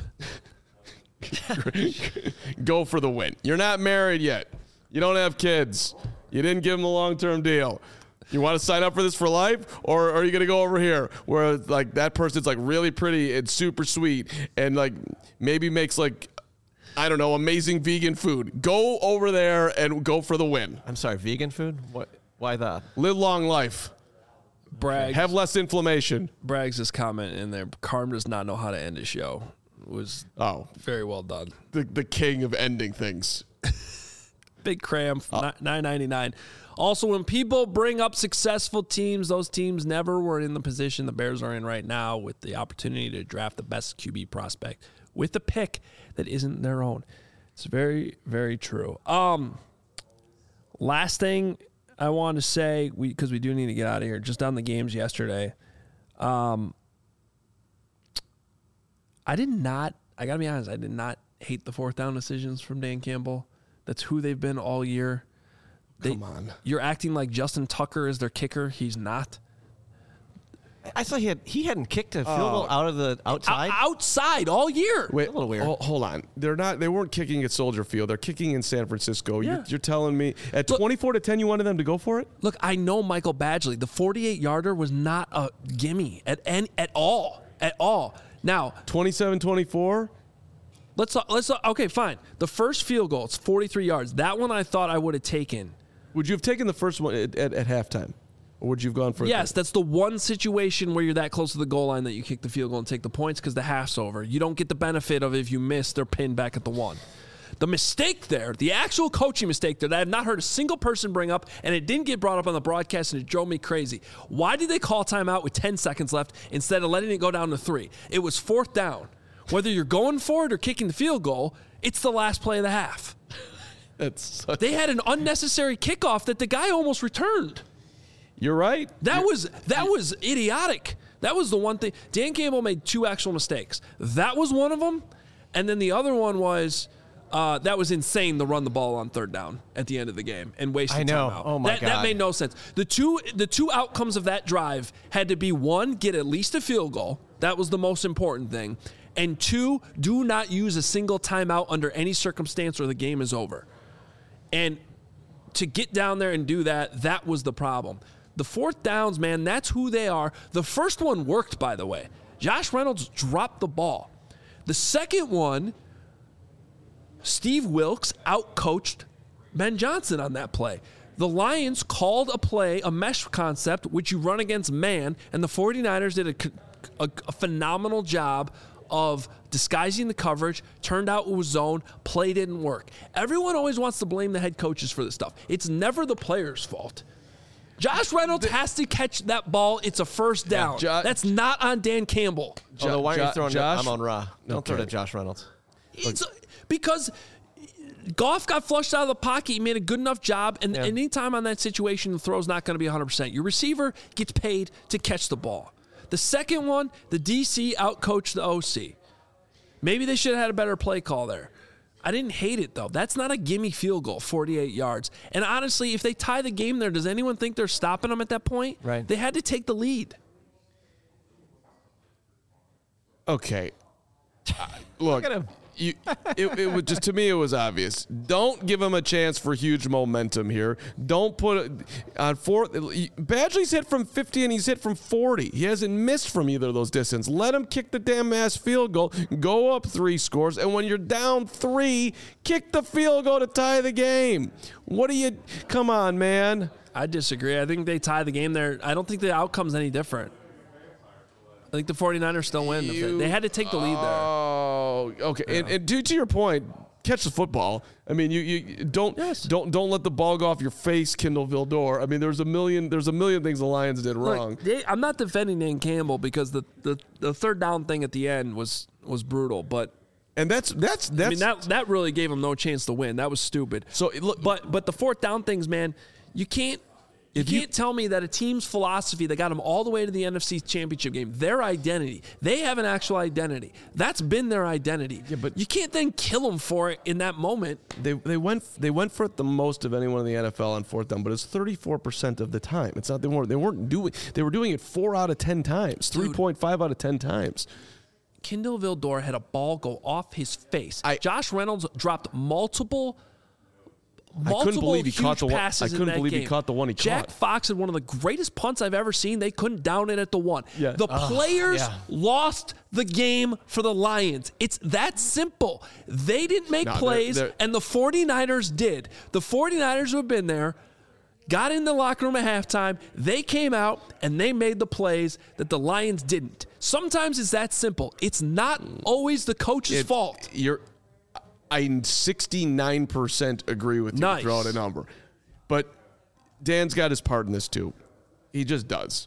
Go for the win. You're not married yet. You don't have kids. You didn't give them a long-term deal. You want to sign up for this for life, or are you going to go over here where like that person's like really pretty and super sweet and like maybe makes like, I don't know, amazing vegan food? Go over there and go for the win. I'm sorry, vegan food? What? Why that? Live long life. Bragg Have less inflammation. Braggs' comment in there. Carm does not know how to end a show. Was Oh, very well done. the the king of ending things. Big cram, nine ninety-nine. Also, when people bring up successful teams, those teams never were in the position the Bears are in right now with the opportunity to draft the best Q B prospect with a pick that isn't their own. It's very, very true. Um, last thing I want to say, we because we do need to get out of here, just on the games yesterday. Um, I did not, I got to be honest, I did not hate the fourth down decisions from Dan Campbell. That's who they've been all year. They, Come on. You're acting like Justin Tucker is their kicker. He's not. I thought he had he hadn't kicked a field goal out of the outside. O- outside all year. Wait, a little weird. ho- Hold on. They're not. They weren't kicking at Soldier Field. They're kicking in San Francisco. Yeah. You're, you're telling me at Look- twenty-four to ten, you wanted them to go for it? Look, I know Michael Badgley. The forty-eight yarder was not a gimme at any, at all. At all. Now, twenty-seven twenty-four? let's let's okay, fine. The first field goal, it's forty-three yards. That one I thought I would have taken. Would you have taken the first one at, at, at halftime? Or would you have gone for it? Yes, that's the one situation where you're that close to the goal line that you kick the field goal and take the points because the half's over. You don't get the benefit of if you miss, they're pinned back at the one. The mistake there, the actual coaching mistake there that I have not heard a single person bring up, and it didn't get brought up on the broadcast, and it drove me crazy. Why did they call timeout with ten seconds left instead of letting it go down to three? It was fourth down. Whether you're going for it or kicking the field goal, it's the last play of the half. That's such, They had an unnecessary kickoff that the guy almost returned. you're right. That was that was idiotic. That was the one thing. Dan Campbell made two actual mistakes. That was one of them, and then the other one was uh, that was insane to run the ball on third down at the end of the game and waste I the know. timeout. Oh, my that, That God. made no sense. The two the two outcomes of that drive had to be one, get at least a field goal. That was the most important thing, and two, do not use a single timeout under any circumstance or the game is over. And to get down there and do that, that was the problem. The fourth downs, man, that's who they are. The first one worked, by the way. Josh Reynolds dropped the ball. The second one, Steve Wilks outcoached Ben Johnson on that play. The Lions called a play, a mesh concept, which you run against man, and the 49ers did a, a, a phenomenal job of disguising the coverage, turned out it was zone, play didn't work. Everyone always wants to blame the head coaches for this stuff. It's never the player's fault. Josh Reynolds the, has to catch that ball. It's a first down. Yeah, jo- That's not on Dan Campbell. Jo- Although, why are you throwing Josh? I'm on Ra. Don't okay. throw to Josh Reynolds. It's, because Goff got flushed out of the pocket. He made a good enough job. And yeah. anytime on that situation, the throw's not going to be one hundred percent. Your receiver gets paid to catch the ball. The second one, the D C outcoached the O C. Maybe they should have had a better play call there. I didn't hate it, though. That's not a gimme field goal, forty-eight yards. And honestly, if they tie the game there, does anyone think they're stopping them at that point? Right. They had to take the lead. Okay. Uh, look, look you, it, it was just to me, it was obvious. Don't give him a chance for huge momentum here. Don't put it on fourth. Badgley's hit from fifty and he's hit from forty. He hasn't missed from either of those distances. Let him kick the damn ass field goal. Go up three scores, and when you're down three, kick the field goal to tie the game. What do you? Come on, man. I disagree. I think they tie the game there. I don't think the outcome's any different. I think the 49ers still win. You, they had to take the lead there. Oh, okay. Yeah. And, and to, to your point, catch the football. I mean, you, you don't yes. don't don't let the ball go off your face, Kindle Vildor. I mean, there's a million there's a million things the Lions did wrong. Look, they, I'm not defending Dan Campbell because the, the, the third down thing at the end was was brutal, but and that's that's that's. I mean, that that really gave him no chance to win. That was stupid. So, look, but but the fourth down things, man, you can't. You if can't you, tell me that a team's philosophy that got them all the way to the N F C Championship game, their identity, they have an actual identity. That's been their identity. Yeah, but you can't then kill them for it in that moment. They they went they went for it the most of anyone in the N F L on fourth down, but it's thirty-four percent of the time. It's not they weren't they weren't doing they were doing it four out of ten times, three point five out of ten times. Kindle Vildor had a ball go off his face. I, Josh Reynolds dropped multiple. Multiple I couldn't believe he caught the one. I couldn't believe game. he caught the one he Jack caught. Jack Fox had one of the greatest punts I've ever seen. They couldn't down it at the one. Yeah. The oh, players yeah. lost the game for the Lions. It's that simple. They didn't make no, plays, they're, they're, and the 49ers did. The 49ers who have been there got in the locker room at halftime. They came out, and they made the plays that the Lions didn't. Sometimes it's that simple. It's not always the coach's it, fault. You're I sixty-nine percent agree with you. Nice. Throw out a number. But Dan's got his part in this too. He just does.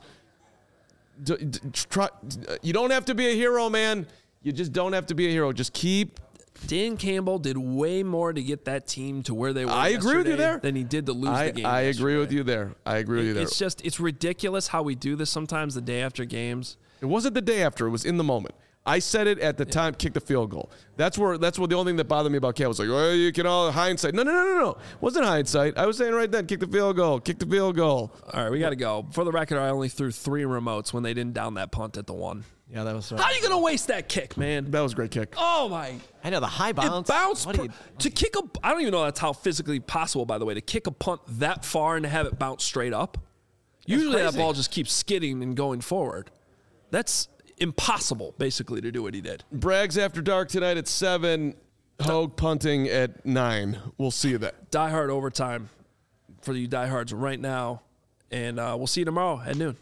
D- d- try, you don't have to be a hero, man. You just don't have to be a hero. Just keep. Dan Campbell did way more to get that team to where they were I agree with you there. Than he did to lose I, the game I yesterday. agree with you there. I agree with you there. It's just, it's ridiculous how we do this sometimes the day after games. It wasn't the day after. It was in the moment. I said it at the time, kick the field goal. That's where that's what the only thing that bothered me about Cam was like, well, you can all hindsight. No, no, no, no, no. It wasn't hindsight. I was saying right then, kick the field goal, kick the field goal. All right, we got to go. For the record, I only threw three remotes when they didn't down that punt at the one. Yeah, that was so How are you going to waste that kick, man? That was a great kick. Oh, my. I know, the high bounce. It bounced. What Per, you, to kick a, I don't even know that's how physically possible, by the way, to kick a punt that far and to have it bounce straight up. Usually that ball just keeps skidding and going forward. That's impossible, basically, to do what he did. Brags After Dark tonight at seven. Hogue punting at nine. We'll see you then. Die Hard overtime for you diehards right now. And uh, we'll see you tomorrow at noon.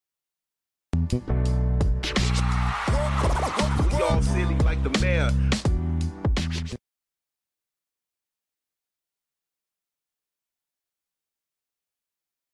We all silly like the mayor.